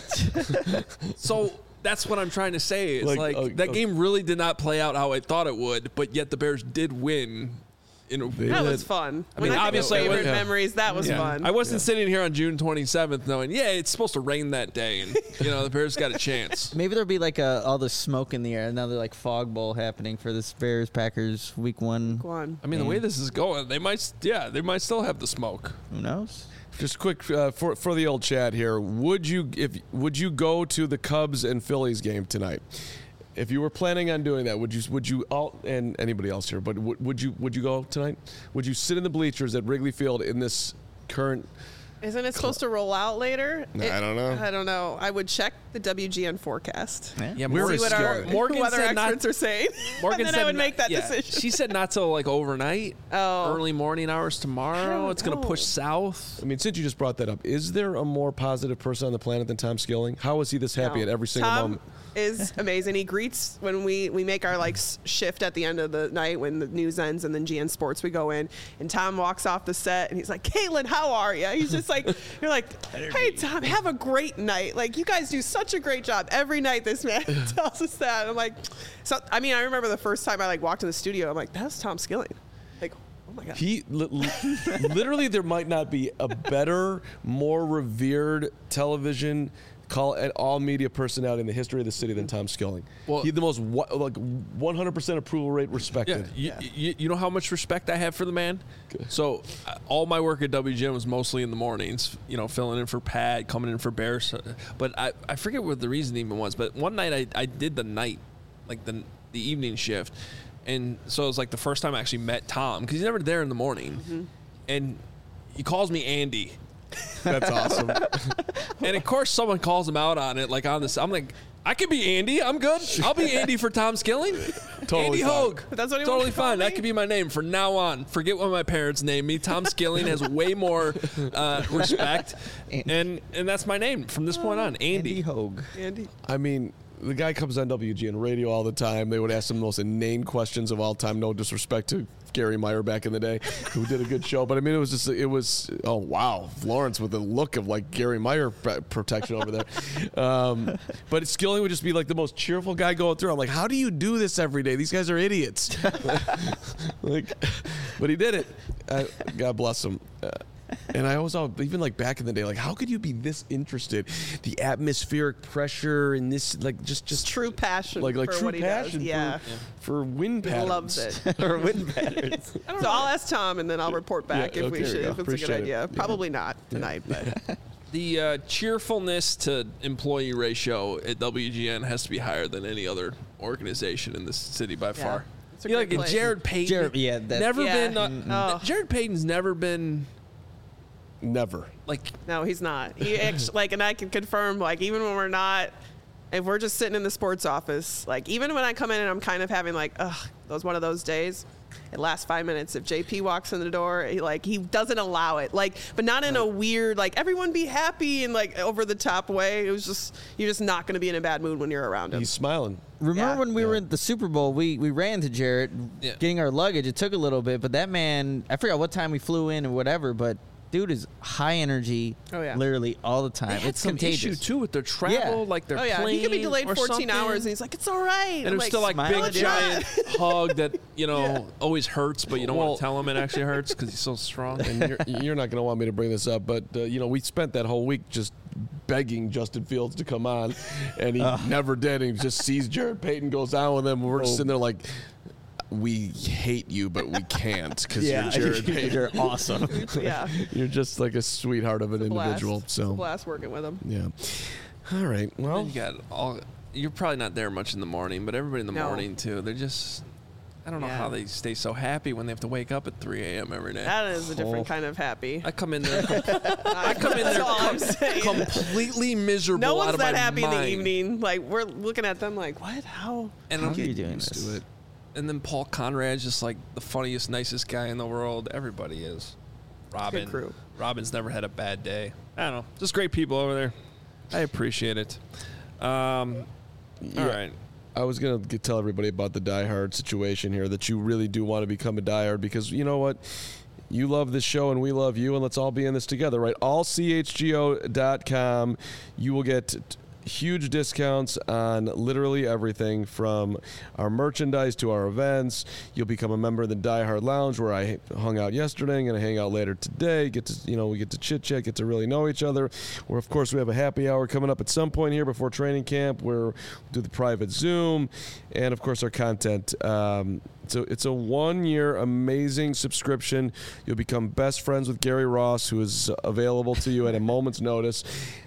So that's what I'm trying to say. It's Like, like, uh, that uh, game really did not play out how I thought it would, but yet the Bears did win. In a, That was did. fun. I When mean, I think of obviously I favorite wouldn't- memories, that was Yeah. fun. I wasn't sitting here on June twenty-seventh knowing, yeah, it's supposed to rain that day, and you know the Bears got a chance. Maybe there'll be like a, all the smoke in the air, another like fog bowl happening for this Bears Packers week one. Go on. I mean, the way this is going, they might, yeah, they might still have the smoke. Who knows? Just quick uh, for for the old chat here. Would you if would you go to the Cubs and Phillies game tonight? If you were planning on doing that, would you would you all and anybody else here? But would, would you would you go tonight? Would you sit in the bleachers at Wrigley Field in this current? Isn't it supposed to roll out later? Nah, It- I don't know. I don't know. I would check the W G N forecast. Yeah. Yeah, We're See a what our skillet. Morgan weather said not- experts are saying. Morgan and then said I would not- make that yeah, decision. She said not till like overnight, Oh. early morning hours I tomorrow. don't It's going to push know. south. I mean, since you just brought that up, is there a more positive person on the planet than Tom Skilling? How is he this happy No. at every single Tom moment? is amazing. He greets when we, we make our like s- shift at the end of the night when the news ends and then G N Sports we go in and Tom walks off the set and he's like, Caitlin, how are you? He's just like, you're like, hey Tom, have a great night. Like you guys do such a great job every night. This man tells us that. I'm like, so I mean, I remember the first time I like walked in the studio. I'm like, that's Tom Skilling. Like, oh my god. He li- li- literally, there might not be a better, more revered television call and all media personality in the history of the city than Tom Skilling. Well- He had the most wa- like one hundred percent approval rate Yeah, respected. you, you, you know how much respect I have for the man? So uh, all my work at W G N was mostly in the mornings, you know, filling in for Pat, coming in for Bears. uh, But I, I forget what the reason even was. But one night I, I did the night, like the, the evening shift. And so it was like the first time I actually met Tom because he's never there in the morning. Mm-hmm. And he calls me Andy. That's awesome. And of course, someone calls him out on it, like on this. I'm like, I could be Andy. I'm good. I'll be Andy for Tom Skilling. Totally Andy fine. Hogue. That's what he Totally wants to call fine. That me? could be my name from now on. Forget what my parents named me. Tom Skilling has way more uh, respect, and and that's my name from this point on. Andy. Andy Hogue. Andy. I mean, the guy comes on W G N radio all the time. They would ask him the most inane questions of all time. No disrespect to Gary Meyer back in the day, who did a good show. But I mean, it was just, it was, oh, wow. Lawrence with the look of like Gary Meyer p- protection over there. Um, but Skilling would just be like the most cheerful guy going through. I'm like, how do you do this every day? These guys are idiots. like, but he did it. Uh, God bless him. Uh, And I always thought, even like back in the day, like how could you be this interested? The atmospheric pressure and this, like just just True passion like like for true what he passion does. Yeah. for, for wind He patterns. loves it. or wind patterns. So I'll ask Tom, and then I'll report back Yeah, if we okay, should, there you if go. it's a good Appreciate it. idea. Yeah. Probably not tonight, but The uh, cheerfulness to employee ratio at W G N has to be higher than any other organization in this city by far. It's a You know, great like place. Jared Payton. Jared- yeah, that- never Yeah. been. Uh, Mm. Oh. Jared Payton's never been Never. like. no, he's not. He actually, like, and I can confirm, like, even when we're not, if we're just sitting in the sports office, like, even when I come in and I'm kind of having like, ugh, those one of those days. It lasts five minutes. If J P walks in the door, he, like he doesn't allow it. Like, but not in a weird, like everyone be happy and like over the top way. It was just you're just not going to be in a bad mood when you're around him. He's smiling. Remember Yeah. when we were at the Super Bowl, we, we ran to Jarrett Yeah. getting our luggage. It took a little bit, but that man, I forgot what time we flew in or whatever, but dude is high energy Oh, yeah. literally all the time. They had It's some contagious. issue too with their travel, Yeah. like their Oh yeah, plane he could be delayed or fourteen something. hours, and he's like, "It's all right." And it was still like smiling big at you. giant hug that you know Yeah. always hurts, but you don't Well- want to tell him it actually hurts because he's so strong. And you're, you're not going to want me to bring this up, but uh, you know, we spent that whole week just begging Justin Fields to come on, and he never did. And he just sees Jared Payton goes on with him. And we're just sitting there like, we hate you, but we can't because Yeah, you're Jared Payton. you're awesome. Yeah, You're just like a sweetheart of an blast. individual. It's a So blast working with him. yeah. All right. Well, you got all. You're probably not there much in the morning, but everybody in the No. morning too. They're just. I don't know Yeah. how they stay so happy when they have to wake up at three a.m. every day. That is a different Oh. kind of happy. I come in there. I come in That's there all I'm com- saying. completely miserable. No out one's of that my happy in the mind. evening. Like we're looking at them like, what? How? And How I'm are you getting doing used this? to it. And then Paul Conrad's just like the funniest, nicest guy in the world. Everybody is. Robin. crew. Robin's never had a bad day. I don't know. Just great people over there. I appreciate it. Um, Yeah. All right. I was gonna get, tell everybody about the Die Hard situation here. That you really do want to become a Die Hard because you know what. You love this show and we love you, and let's all be in this together, right? all c h g o dot com. You will get t- huge discounts on literally everything from our merchandise to our events. You'll become a member of the Die Hard Lounge where I hung out yesterday. I'm going to hang out later today. Get to, you know, we get to chit chat, get to really know each other. Where, of course, we have a happy hour coming up at some point here before training camp where we do the private Zoom and, of course, our content. Um, So it's a one-year amazing subscription. You'll become best friends with Gary Ross, who is available to you at a moment's notice.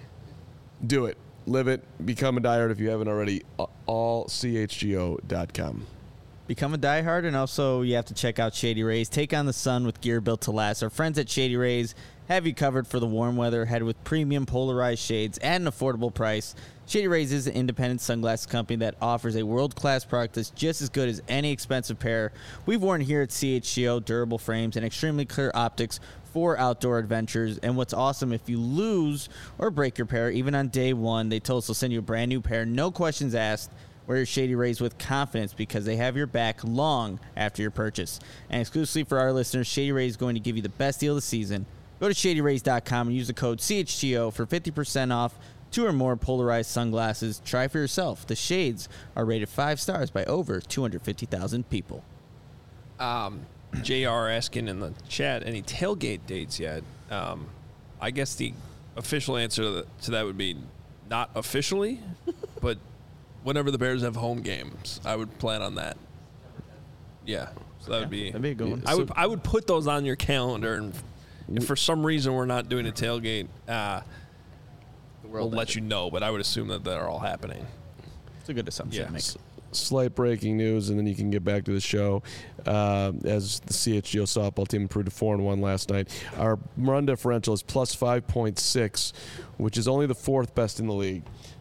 Do it. Live it. Become a Die Hard if you haven't already. all c h g o dot com. Become a diehard, and also you have to check out Shady Rays. Take on the sun with gear built to last. Our friends at Shady Rays have you covered for the warm weather. Head with premium polarized shades at an affordable price. Shady Rays is an independent sunglasses company that offers a world-class product that's just as good as any expensive pair. We've worn here at C H G O durable frames and extremely clear optics for outdoor adventures. And what's awesome, if you lose or break your pair, even on day one, they told us they'll send you a brand new pair, no questions asked. Wear your Shady Rays with confidence because they have your back long after your purchase. And exclusively for our listeners, Shady Rays is going to give you the best deal of the season. Go to shady rays dot com and use the code C H G O for fifty percent off two or more polarized sunglasses. Try for yourself. The shades are rated five stars by over two hundred fifty thousand people. Um, J R asking in the chat, any tailgate dates yet? Um, I guess the official answer to, the, to that would be not officially, but whenever the Bears have home games, I would plan on that. Yeah, so that would be. That'd be a good one. I would I would put those on your calendar, and if for some reason we're not doing a tailgate, uh, we'll let you know. But I would assume that they're all happening. It's a good assumption Yeah. to make. Slight breaking news, and then you can get back to the show. Uh, as the C H G O softball team improved to four and one last night, our run differential is plus five point six, which is only the fourth best in the league.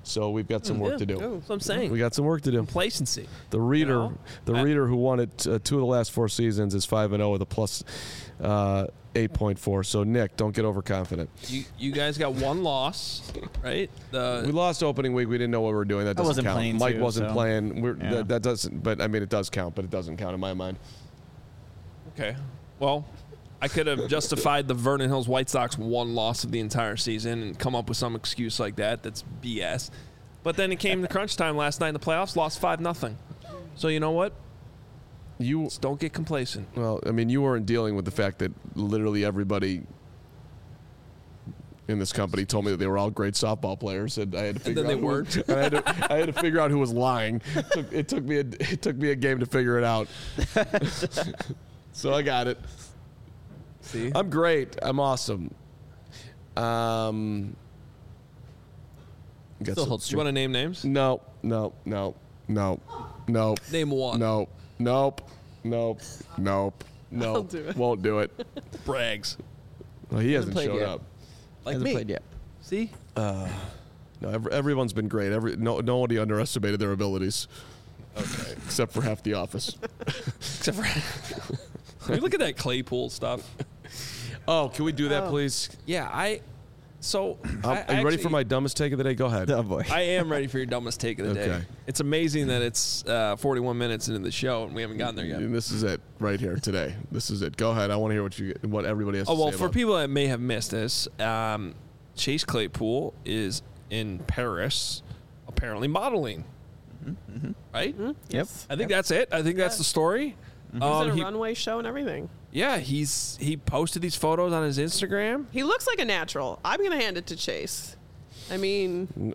So we've got some work Yeah, to do. That's what I'm saying. We got some work to do. Complacency. The reader, know? the I- reader who won it uh, two of the last four seasons is five and zero with a plus uh, eight point four. So Nick, don't get overconfident. You you guys got one loss, right? The We lost opening week. We didn't know what we were doing. That I doesn't wasn't count. playing Mike too, wasn't so- playing. We're, Yeah. that, that doesn't. But I mean, it does count. But it doesn't count in my mind. Okay. Well, I could have justified the Vernon Hills White Sox one loss of the entire season and come up with some excuse like that. That's B S. But then it came to crunch time last night in the playoffs, lost five nothing. So you know what? You Just don't get complacent. well, I mean, you weren't dealing with the fact that literally everybody in this company told me that they were all great softball players, and I had to figure then out they who was- and I had, to, I had to figure out who was lying. It took, it took me a it took me a game to figure it out. So I got it. See? I'm great. I'm awesome. Um, got Still some- holds You want to name names? No, no, no, no, no, Name one. no, nope, nope, nope, nope. I'll do it. Won't do it. Brags. Well, he hasn't played showed yet. up. Like Hasn't me. played yet. See? No, ev- everyone's been great. Every no, nobody underestimated their abilities. Okay, except for half the office. Except for. Can you look at that Claypool stuff? Oh, can we do that, Oh. please? Yeah, I. So. Um, I, are you ready actually- for my dumbest take of the day? Go ahead. Oh boy. I am ready for your dumbest take of the day. Okay. It's amazing that it's uh, forty-one minutes into the show and we haven't gotten there yet. And this is it right here today. This is it. Go ahead. I want to hear what you what everybody has Oh to well, say for about it. people that may have missed this, um, Chase Claypool is in Paris, apparently modeling. Right? Yep. I think that's it. I think that's the story. He's Um, in a he- runway show and everything. yeah, he's he posted these photos on his Instagram. He looks like a natural. I'm gonna hand it to Chase. I mean,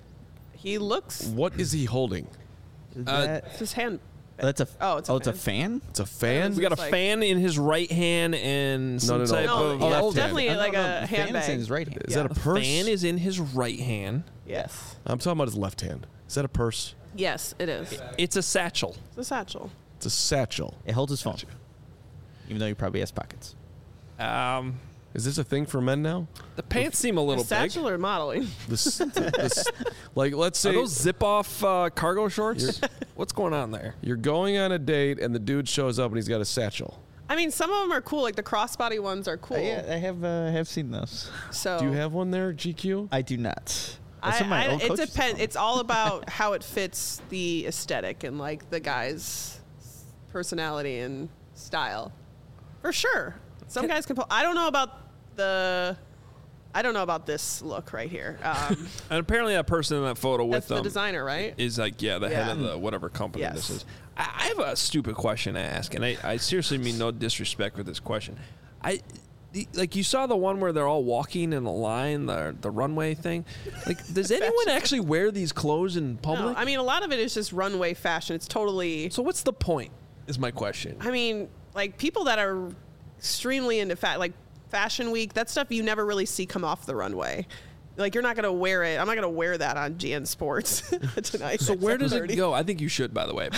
he looks. What is he holding? Uh, It's his hand. That's a Oh, it's a oh, it's a fan. fan. It's a fan. We got a It's like- fan in his right hand and some no, no. type No, of yeah, left hand. definitely No, no, like no, a the fan is handbag. in his right hand. Is that a The purse? fan is in his right hand. Yes. I'm talking about his left hand. Is that a purse? Yes, it is. It's a satchel. It's a satchel. It's a satchel. It holds his phone, even though he probably has pockets. Um, Is this a thing for men now? the pants seem a little A big. satchel or modeling? This, this like let's Are say those zip-off uh, cargo shorts? What's going on there? you're going on a date and the dude shows up and he's got a satchel. I mean, some of them are cool. Like the crossbody ones are cool. yeah, I have uh, have seen those. So Do you have one there, G Q? I do not. I, That's what my I, old it coach used to depends. call me. It's all about how it fits the aesthetic and like the guy's personality and style. For sure. Some guys can pull. I don't know about the. I don't know about this look right here. Um, And apparently, that person in that photo with that's the them designer, right? is like, yeah, the head Yeah. of the whatever company Yes. this is. I, I have a stupid question to ask, and I, I seriously mean no disrespect with this question. I. the- Like you saw the one where they're all walking in a line, the the runway thing. Like, does anyone actually wear these clothes in No, public? I mean, a lot of it is just runway fashion. It's totally. so what's the point? Is my question. I mean, like people that are extremely into fat, like Fashion Week, that stuff you never really see come off the runway. Like you're not gonna wear it. I'm not gonna wear that on G N Sports tonight. So at where does it seven thirty. go? I think you should, by the way. But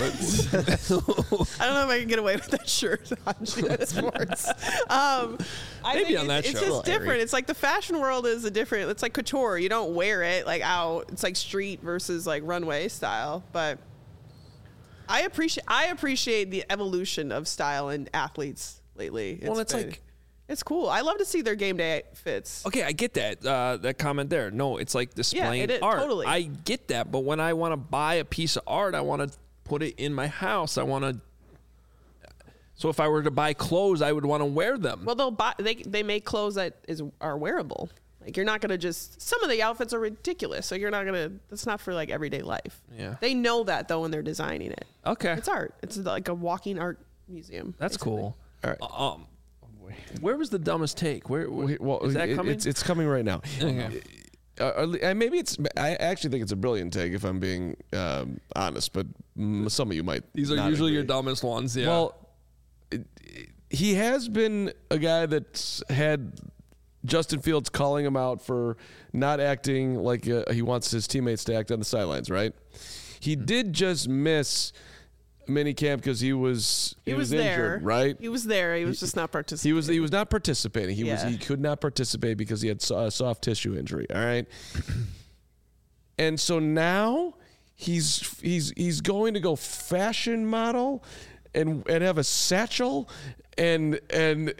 I don't know if I can get away with that shirt on G N Sports. Um, I Maybe think on it's, that it's show. just Little airy. different. It's like the fashion world is a different. It's like couture. You don't wear it like out. It's like street versus like runway style. But I appreciate I appreciate the evolution of style in athletes lately. Well, it's been- like- it's cool. I love to see their game day fits. okay, I get that uh, that comment there. No, it's like displaying it is, art. totally. I get that, but when I want to buy a piece of art, I want to put it in my house. I want to. So if I were to buy clothes, I would want to wear them. Well, they'll buy. They they make clothes that is are wearable. Like you're not gonna just. Some of the outfits are ridiculous, so you're not gonna. That's not for like everyday life. Yeah. They know that though when they're designing it. okay, It's art. It's like a walking art museum. that's basically. cool. All right. Um, where was the dumbest take? Where, where We- well, is that it- coming? It's, it's coming right now. Okay. Uh, uh, maybe it's. I actually think it's a brilliant take, if I'm being um, honest. But mm, some of you might. These are not usually your agree. dumbest ones. Yeah. Well, it- he has been a guy that's had Justin Fields calling him out for not acting like uh, he wants his teammates to act on the sidelines. Right? He did just miss minicamp because he was He, was, there, injured. Right? He was there. He was just not participating. He was he was not participating. He was Yeah. he could not participate because he had so- a soft tissue injury. All right. And so now he's he's he's going to go fashion model and and have a satchel and and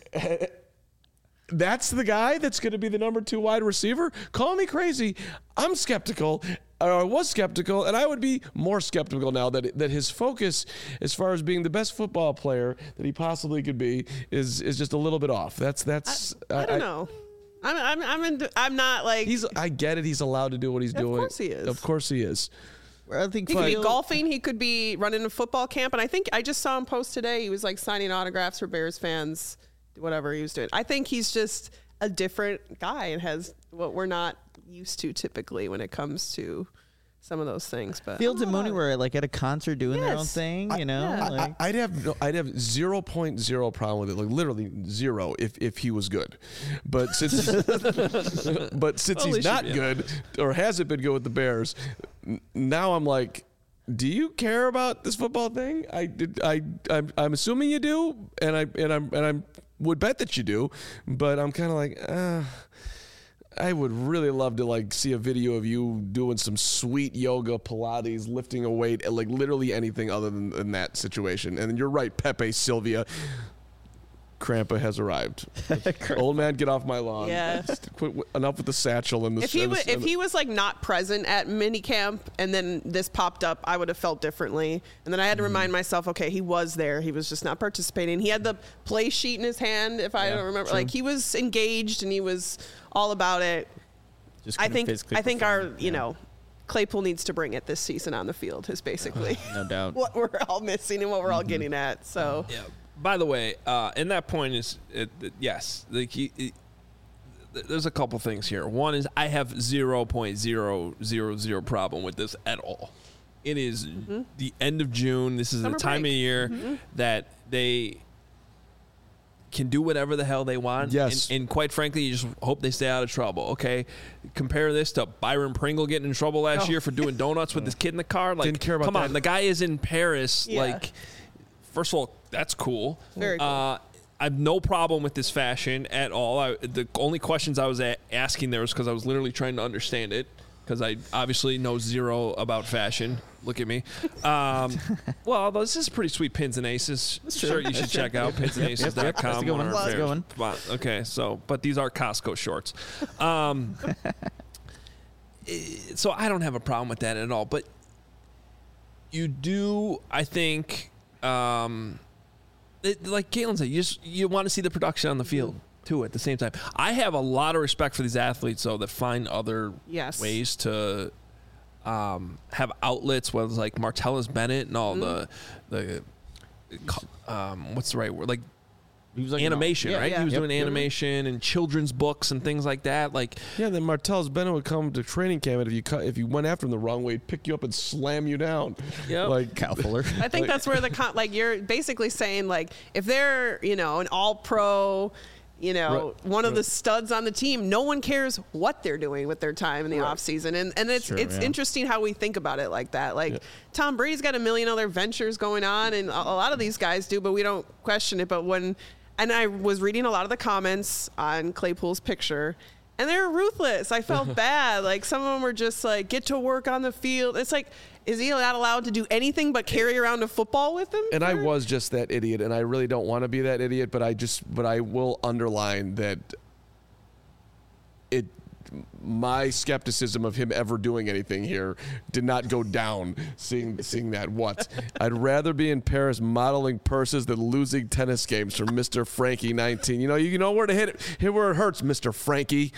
that's the guy that's going to be the number two wide receiver? Call me crazy. I'm skeptical. Or I was skeptical, and I would be more skeptical now that that his focus, as far as being the best football player that he possibly could be, is is just a little bit off. That's that's. I, I don't I, know. I'm I'm I'm in, I'm not like. He's. I get it. He's allowed to do what he's of doing. Of course he is. Of course he is. I think he could be golfing. He could be running a football camp, and I think I just saw him post today. He was like signing autographs for Bears fans, whatever he was doing. I think he's just a different guy and has what we're not used to typically when it comes to some of those things. But Fields and Mooney were like at a concert doing yes. their own thing, you know. I, yeah. like. I, I'd have no, I'd have zero point zero problem with it, like literally zero, if if he was good. But since but since Well, he's he not should be. good or hasn't been good with the Bears, n- now I'm like, do you care about this football thing? I did. I I'm, I'm assuming you do, and I and I'm and I would bet that you do, but I'm kind of like, uh, I would really love to like see a video of you doing some sweet yoga, Pilates, lifting a weight, and like literally anything other than, than that situation. And you're right, Pepe Sylvia. Krampa has arrived. Old man, get off my lawn. Yeah. Just quit, enough with the satchel and the. If he and the- w- if he was like not present at minicamp and then this popped up, I would have felt differently. And then I had to remind myself, okay, he was there. He was just not participating. He had the play sheet in his hand. If I Yeah, don't remember, true. like he was engaged and he was all about it. Just I couldn't think physically I think our perform. you Yeah. know Claypool needs to bring it this season on the field. Is basically No doubt. what we're all missing and what we're all getting at. So Yeah. By the way, uh, and that point is, it, it, yes, like he, he, th- there's a couple things here. One is I have zero point zero zero zero problem with this at all. It is the end of June. This is Summer the time break. of year that they can do whatever the hell they want. Yes. And, and quite frankly, you just hope they stay out of trouble, okay? Compare this to Byron Pringle getting in trouble last Oh. year for doing donuts with his kid in the car. Like, Didn't care about come that. on, the guy is in Paris. Yeah. Like, first of all, that's cool. Very cool. Uh, I have no problem with this fashion at all. I, the only questions I was a- asking there was because I was literally trying to understand it, because I obviously know zero about fashion. Look at me. Um, well, this is pretty sweet pins and aces. Sure, you should check out pins and aces dot com. That's a good one. That's a good one. Okay, so, but these are Costco shorts. Um, eh, so I don't have a problem with that at all. But you do, I think, um, it, like Caitlin said, you just you want to see the production on the field too at the same time. I have a lot of respect for these athletes, though, that find other Yes. ways to um, have outlets, whether it's like Martellus Bennett and all the the um, what's the right word, like He was like animation, Yeah, right? yeah. He was Yep. doing animation and children's books and things like that. Like, Yeah, then Martellus Bennett would come to training camp, and if you cut, if you went after him the wrong way, he'd pick you up and slam you down. Yep. Like Cal Fuller. I think that's where the con- like you're basically saying like if they're you know an all pro, you know Right, one of the right. studs on the team, no one cares what they're doing with their time in the Right. off season, and and it's Sure, it's yeah. interesting how we think about it like that. Like Yeah. Tom Brady's got a million other ventures going on, and a, a lot of these guys do, but we don't question it. But when and I was reading a lot of the comments on Claypool's picture. And they're ruthless. I felt bad. Like some of them were just like, get to work on the field. It's like, is he not allowed to do anything but carry around a football with him? And I for- was just that idiot, and I really don't want to be that idiot, but I just, but I will underline that it, my skepticism of him ever doing anything here did not go down seeing seeing that. What? I'd rather be in Paris modeling purses than losing tennis games from Mister Frankie nineteen. You know, you know where to hit it, hit where it hurts, Mister Frankie.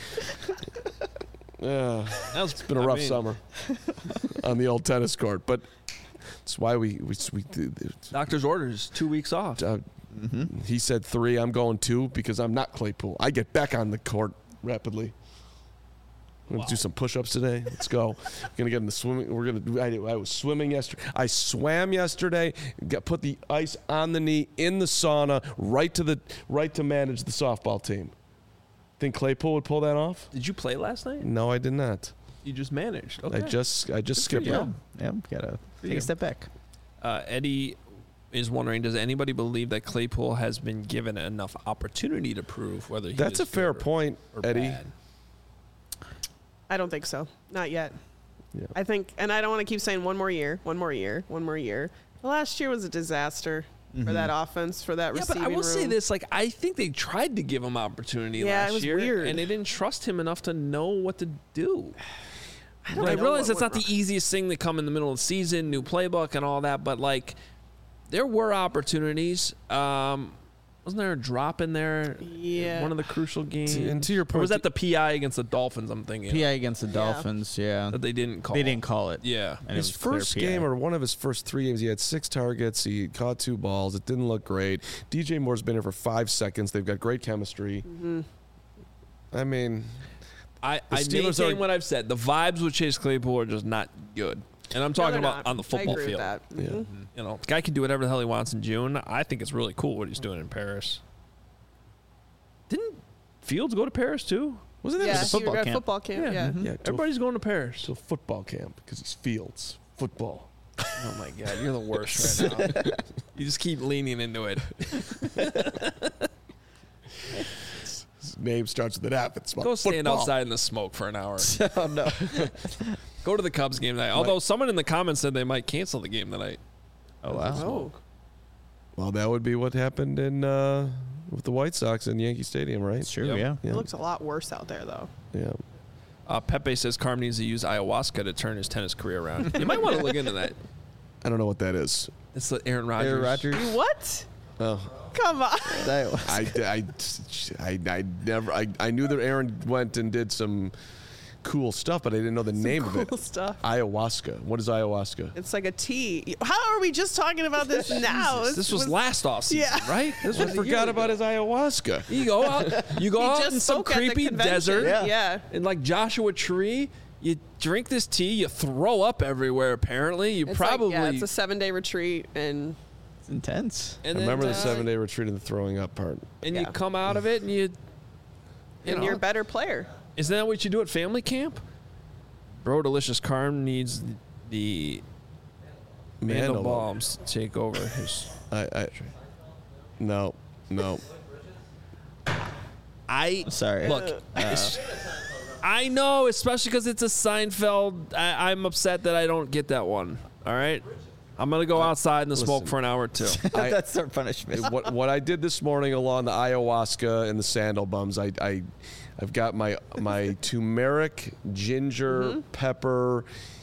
Yeah, that was, it's been a I rough mean, summer on the old tennis court, but that's why we we, we Doctor's orders, two weeks off. uh, he said three. I'm going two because I'm not Claypool. I get back on the court rapidly. We're gonna do some push-ups today. Let's go. We're gonna get in the swimming. We're gonna. do- I, I was swimming yesterday. I swam yesterday. Got put the ice on the knee in the sauna, right to the right to manage the softball team. Think Claypool would pull that off? Did you play last night? No, I did not. You just managed. Okay. I just I just Good for skipped you. it. Yeah, yeah, gotta take you. a step back. Uh, Eddie is wondering, does anybody believe that Claypool has been given enough opportunity to prove whether he That's is a fair good or- point, or Eddie. bad? I don't think so. Not yet. Yeah. I think, and I don't want to keep saying one more year, one more year, one more year. The last year was a disaster Mm-hmm. for that offense, for that Yeah, receiving but I will room. say this: like, I think they tried to give him opportunity Yeah, last it was year, weird. and they didn't trust him enough to know what to do. I I, don't I know realize what that's not went the easiest thing to come in the middle of the season, new playbook and all that, but like, there were opportunities. Um, wasn't there a drop in there? Yeah. One of the crucial games. and to your Or point, was that the P I against the Dolphins? I'm thinking P I against the Dolphins, yeah. that they didn't call. They didn't call it. Yeah. And it his was clear first P I. game or one of his first three games, he had six targets. He caught two balls. It didn't look great. D J Moore's been here for five seconds. They've got great chemistry. Mm-hmm. I mean, I, The I Steelers maintain are- what I've said. The vibes with Chase Claypool are just not good. And I'm No, talking they're about not. on the football I agree field. With that. yeah. Mhm. You know, the guy can do whatever the hell he wants in June. I think it's really cool what he's doing in Paris. Didn't Fields go to Paris too? Wasn't that Yeah, a he football was at camp. football camp. Yeah. Yeah. Mhm. yeah, to Everybody's going to Paris. a, to a football camp because it's Fields football. Oh my God, you're the worst right now. You just keep leaning into it. His name starts with an F. It's about Go stand football. outside in the smoke for an hour. Oh, no. Go to the Cubs game tonight. Although someone in the comments said they might cancel the game tonight. Oh, wow. Oh. Well, that would be what happened in uh, with the White Sox in Yankee Stadium, right? It's true, Yep. yeah. Yeah. It looks a lot worse out there, though. Yeah. Uh, Pepe says Carm needs to use ayahuasca to turn his tennis career around. You might want to look into that. I don't know what that is. It's the Aaron Rodgers. Aaron Rodgers. What? Oh. Come on. That was- I, I, I, I never I, I knew that Aaron went and did some cool stuff, but I didn't know the name cool of it. stuff. Ayahuasca. What is ayahuasca? It's like a tea. How are we just talking about this now? Jesus, this was, last off season, Yeah. right? This I was a year forgot ago. about his ayahuasca. You go out, you go He out just in some spoke at the creepy convention. desert, Yeah. Yeah. in like Joshua Tree. You drink this tea, you throw up everywhere. Apparently, you It's probably like, yeah, it's a seven day retreat, and It's intense. and I then, remember the uh, seven day retreat and the throwing up part. and you Yeah. come out of it, and you, you and know, you're a better player. isn't that what you do at family camp? Bro, Delicious Carm needs the Mandelbaum. Mandelbaums to take over his. I, I no, no. I Sorry. look. it's- I know, especially because it's a Seinfeld. I, I'm upset that I don't get that one. All right, I'm gonna go outside in the smoke listen. for an hour or two. I- That's our punishment. what what I did this morning along the ayahuasca and the sandal bums, I, I I've got my my turmeric, ginger, pepper,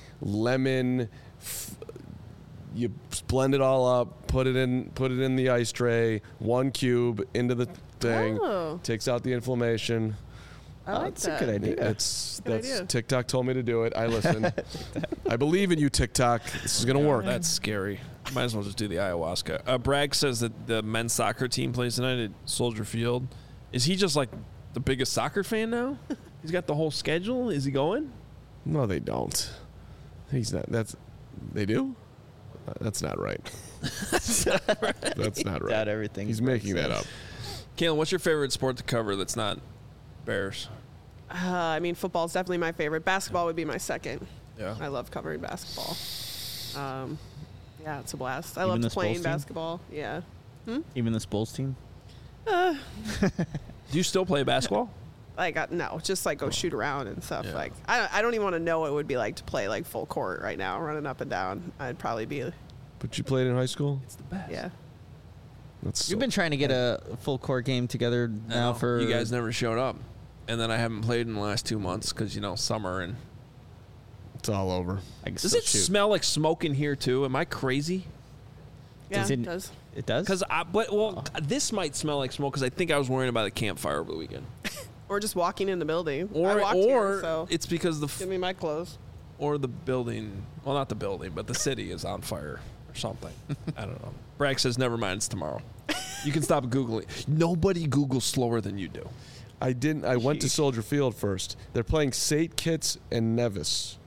lemon. F- you blend it all up, put it in put it in the ice tray, one cube into the thing, Oh. takes out the inflammation. I Oh, like that's that. a good idea. It's Good that's idea. TikTok told me to do it. I listened. I believe in you, TikTok. This is gonna work. That's scary. Might as well just do the ayahuasca. Uh, Bragg says that the men's soccer team plays tonight at Soldier Field. Is he just like the biggest soccer fan now? He's got the whole schedule. Is he going? No, they don't. He's not. That's they do. Uh, That's not right. That's not right. Doubt everything. He's making that up. Kalen, what's your favorite sport to cover that's not Bears? Uh, I mean, football is definitely my favorite. Basketball would be my second. Yeah. I love covering basketball. Um, yeah, it's a blast. I Even love this playing Bulls team? basketball. Yeah. Even this Bulls team? Do you still play basketball? Like, uh, no, just like go shoot around and stuff. Yeah. Like, I don't, I don't even want to know what it would be like to play like full court right now, running up and down. I'd probably be, But you played in high school. It's the best. yeah. That's You've been trying to get a full court game together now for. you guys never showed up, and then I haven't played in the last two months because you know summer and. It's all over. I can Does still it shoot. smell like smoke in here too? Am I crazy? Yeah, Does it it- does. It does? Because I, but well, this might smell like smoke because I think I was worrying about a campfire over the weekend, Or just walking in the building. I or walked or here, so it's because the give f- me my clothes. or the building, well, not the building, but the city is on fire or something. I don't know. Bragg says, "Never mind, it's tomorrow." You can stop googling. Nobody Googles slower than you do. I didn't. I went to Soldier Field first. They're playing Saint Kitts and Nevis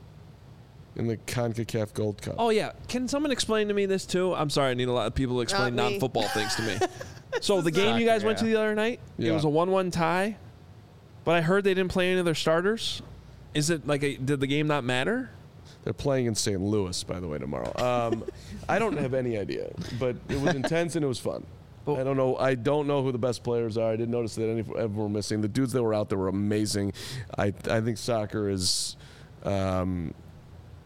in the CONCACAF Gold Cup. Oh yeah, can someone explain to me this too? I'm sorry, I need a lot of people to explain Not me. non-football things to me. So the game you guys Soccer, went to yeah. the other night, it Yeah. was a one-one tie, but I heard they didn't play any of their starters. Is it like a, did the game not matter? They're playing in Saint Louis, by the way, tomorrow. Um, I don't have any idea, but it was intense and it was fun. Well- I don't know. I don't know who the best players are. I didn't notice that any of them were missing. The dudes that were out there were amazing. I I think soccer is um,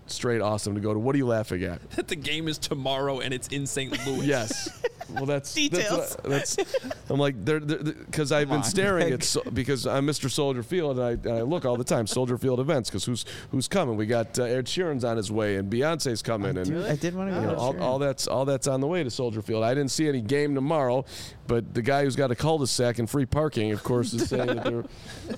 straight awesome to go to. What are you laughing at? That the game is tomorrow and it's in Saint Louis. Yes. Well, that's Details. That's, what, that's I'm like, they're because I've Come been on, staring Greg. at so, because I'm Mister Soldier Field and I, and I look all the time Soldier Field events because who's who's coming? We got uh, Ed Sheeran's on his way and Beyonce's coming and Dude, I did want to you go. know, all, all that's all that's on the way to Soldier Field. I didn't see any game tomorrow, but the guy who's got a cul-de-sac and free parking, of course, is saying that they're.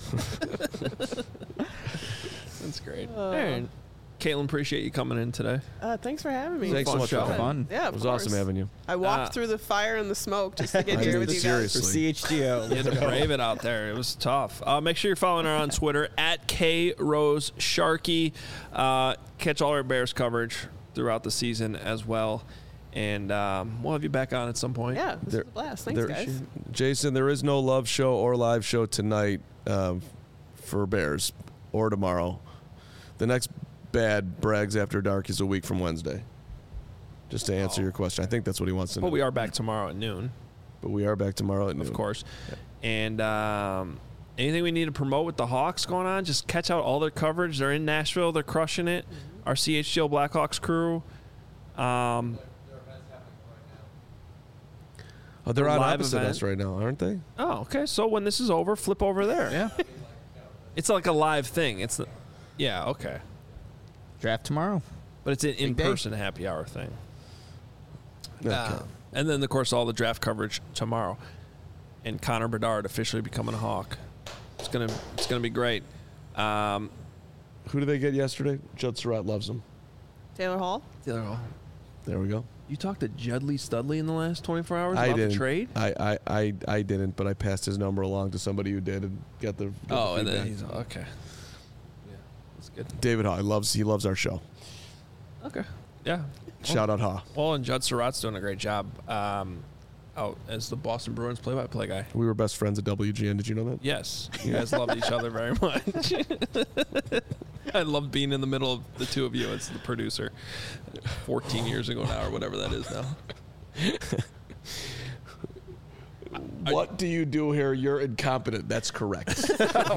That's great. All right. Caitlin, appreciate you coming in today. Uh, thanks for having me. Thanks so Fun much show. for coming. Fun. Yeah, It of was course. awesome having you. I walked Uh, through the fire and the smoke just to get I here mean, with you guys. seriously. For C H G O. You had to brave it out there. It was tough. Uh, make sure you're following her on Twitter at K Rose Sharkey. Uh, catch all our Bears coverage throughout the season as well. And um, we'll have you back on at some point. Yeah, this There- was a blast. Thanks, There- guys. Jason, there is no love show or live show tonight um, for Bears or tomorrow. The next bad Brags After Dark is a week from Wednesday. Just to answer Oh. your question. I think that's what he wants to know. But we are back tomorrow at noon, But we are back tomorrow at noon. of course. And um, anything we need to promote with the Hawks going on, just catch out all their coverage. They're in Nashville. They're crushing it. Our C H G O Blackhawks crew. Um, Oh, they're on live opposite event. us right now, aren't they? oh, okay. So when this is over, flip over there. Yeah. It's like a live thing. It's, yeah, okay. Draft tomorrow. But it's an Big day. in-person happy hour thing. Okay. Uh, and then, of course, all the draft coverage tomorrow. And Connor Bedard officially becoming a Hawk. It's gonna, it's gonna be great. Um, Who did they get yesterday? Judd Surratt loves them. Taylor Hall. There we go. You talked to Judley Studley in the last twenty-four hours I about didn't. the trade? I, I, I, I didn't, but I passed his number along to somebody who did and got the. got Oh, the and then feedback. he's okay. Yeah, that's good. David Haw. He loves he loves our show. Okay. Yeah. Shout out Haw. Well, and Judd Surratt's doing a great job um, out as the Boston Bruins play-by-play guy. We were best friends at W G N. Did you know that? Yes, you guys loved each other very much. I loved being in the middle of the two of you as the producer fourteen years ago now, or whatever that is now. What do you do here? You're incompetent. That's correct.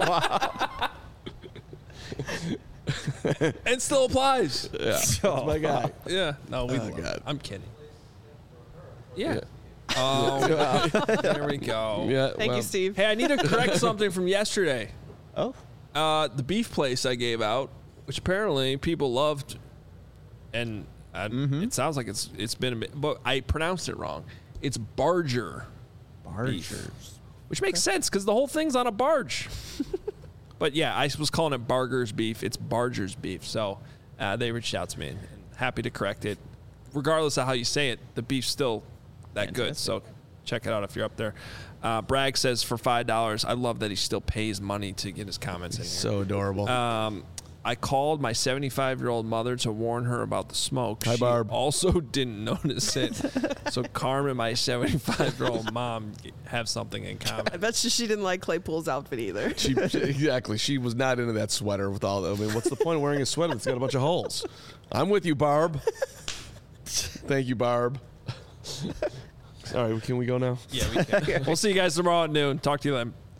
It still applies. yeah, that's my guy. Yeah. No, we Oh, love it. God. I'm kidding. Yeah. Yeah. Oh, there we go. Yeah. Thank well, you, Steve. Hey, I need to correct something from yesterday. Oh. Uh, the beef place I gave out, which apparently people loved, and I, it sounds like it's it's been a bit, but I pronounced it wrong. It's Barger, Bargers. which makes sense because the whole thing's on a barge. But yeah, I was calling it Barger's beef. It's Barger's beef. So uh, they reached out to me, and, and happy to correct it. Regardless of how you say it, the beef's still that good. So check it out if you're up there. Uh, Bragg says for five dollars, I love that he still pays money to get his comments in here. So adorable. Um, I called my seventy-five-year-old mother to warn her about the smoke. Hi, she Barb. also didn't notice it. So Carmen, my seventy-five-year-old mom, have something in I common. bet you she didn't like Claypool's outfit either. she, exactly. She was not into that sweater with all. I mean, what's the point of wearing a sweater that's got a bunch of holes? I'm with you, Barb. Thank you, Barb. All right, can we go now? Yeah, we can. We'll see you guys tomorrow at noon. Talk to you then.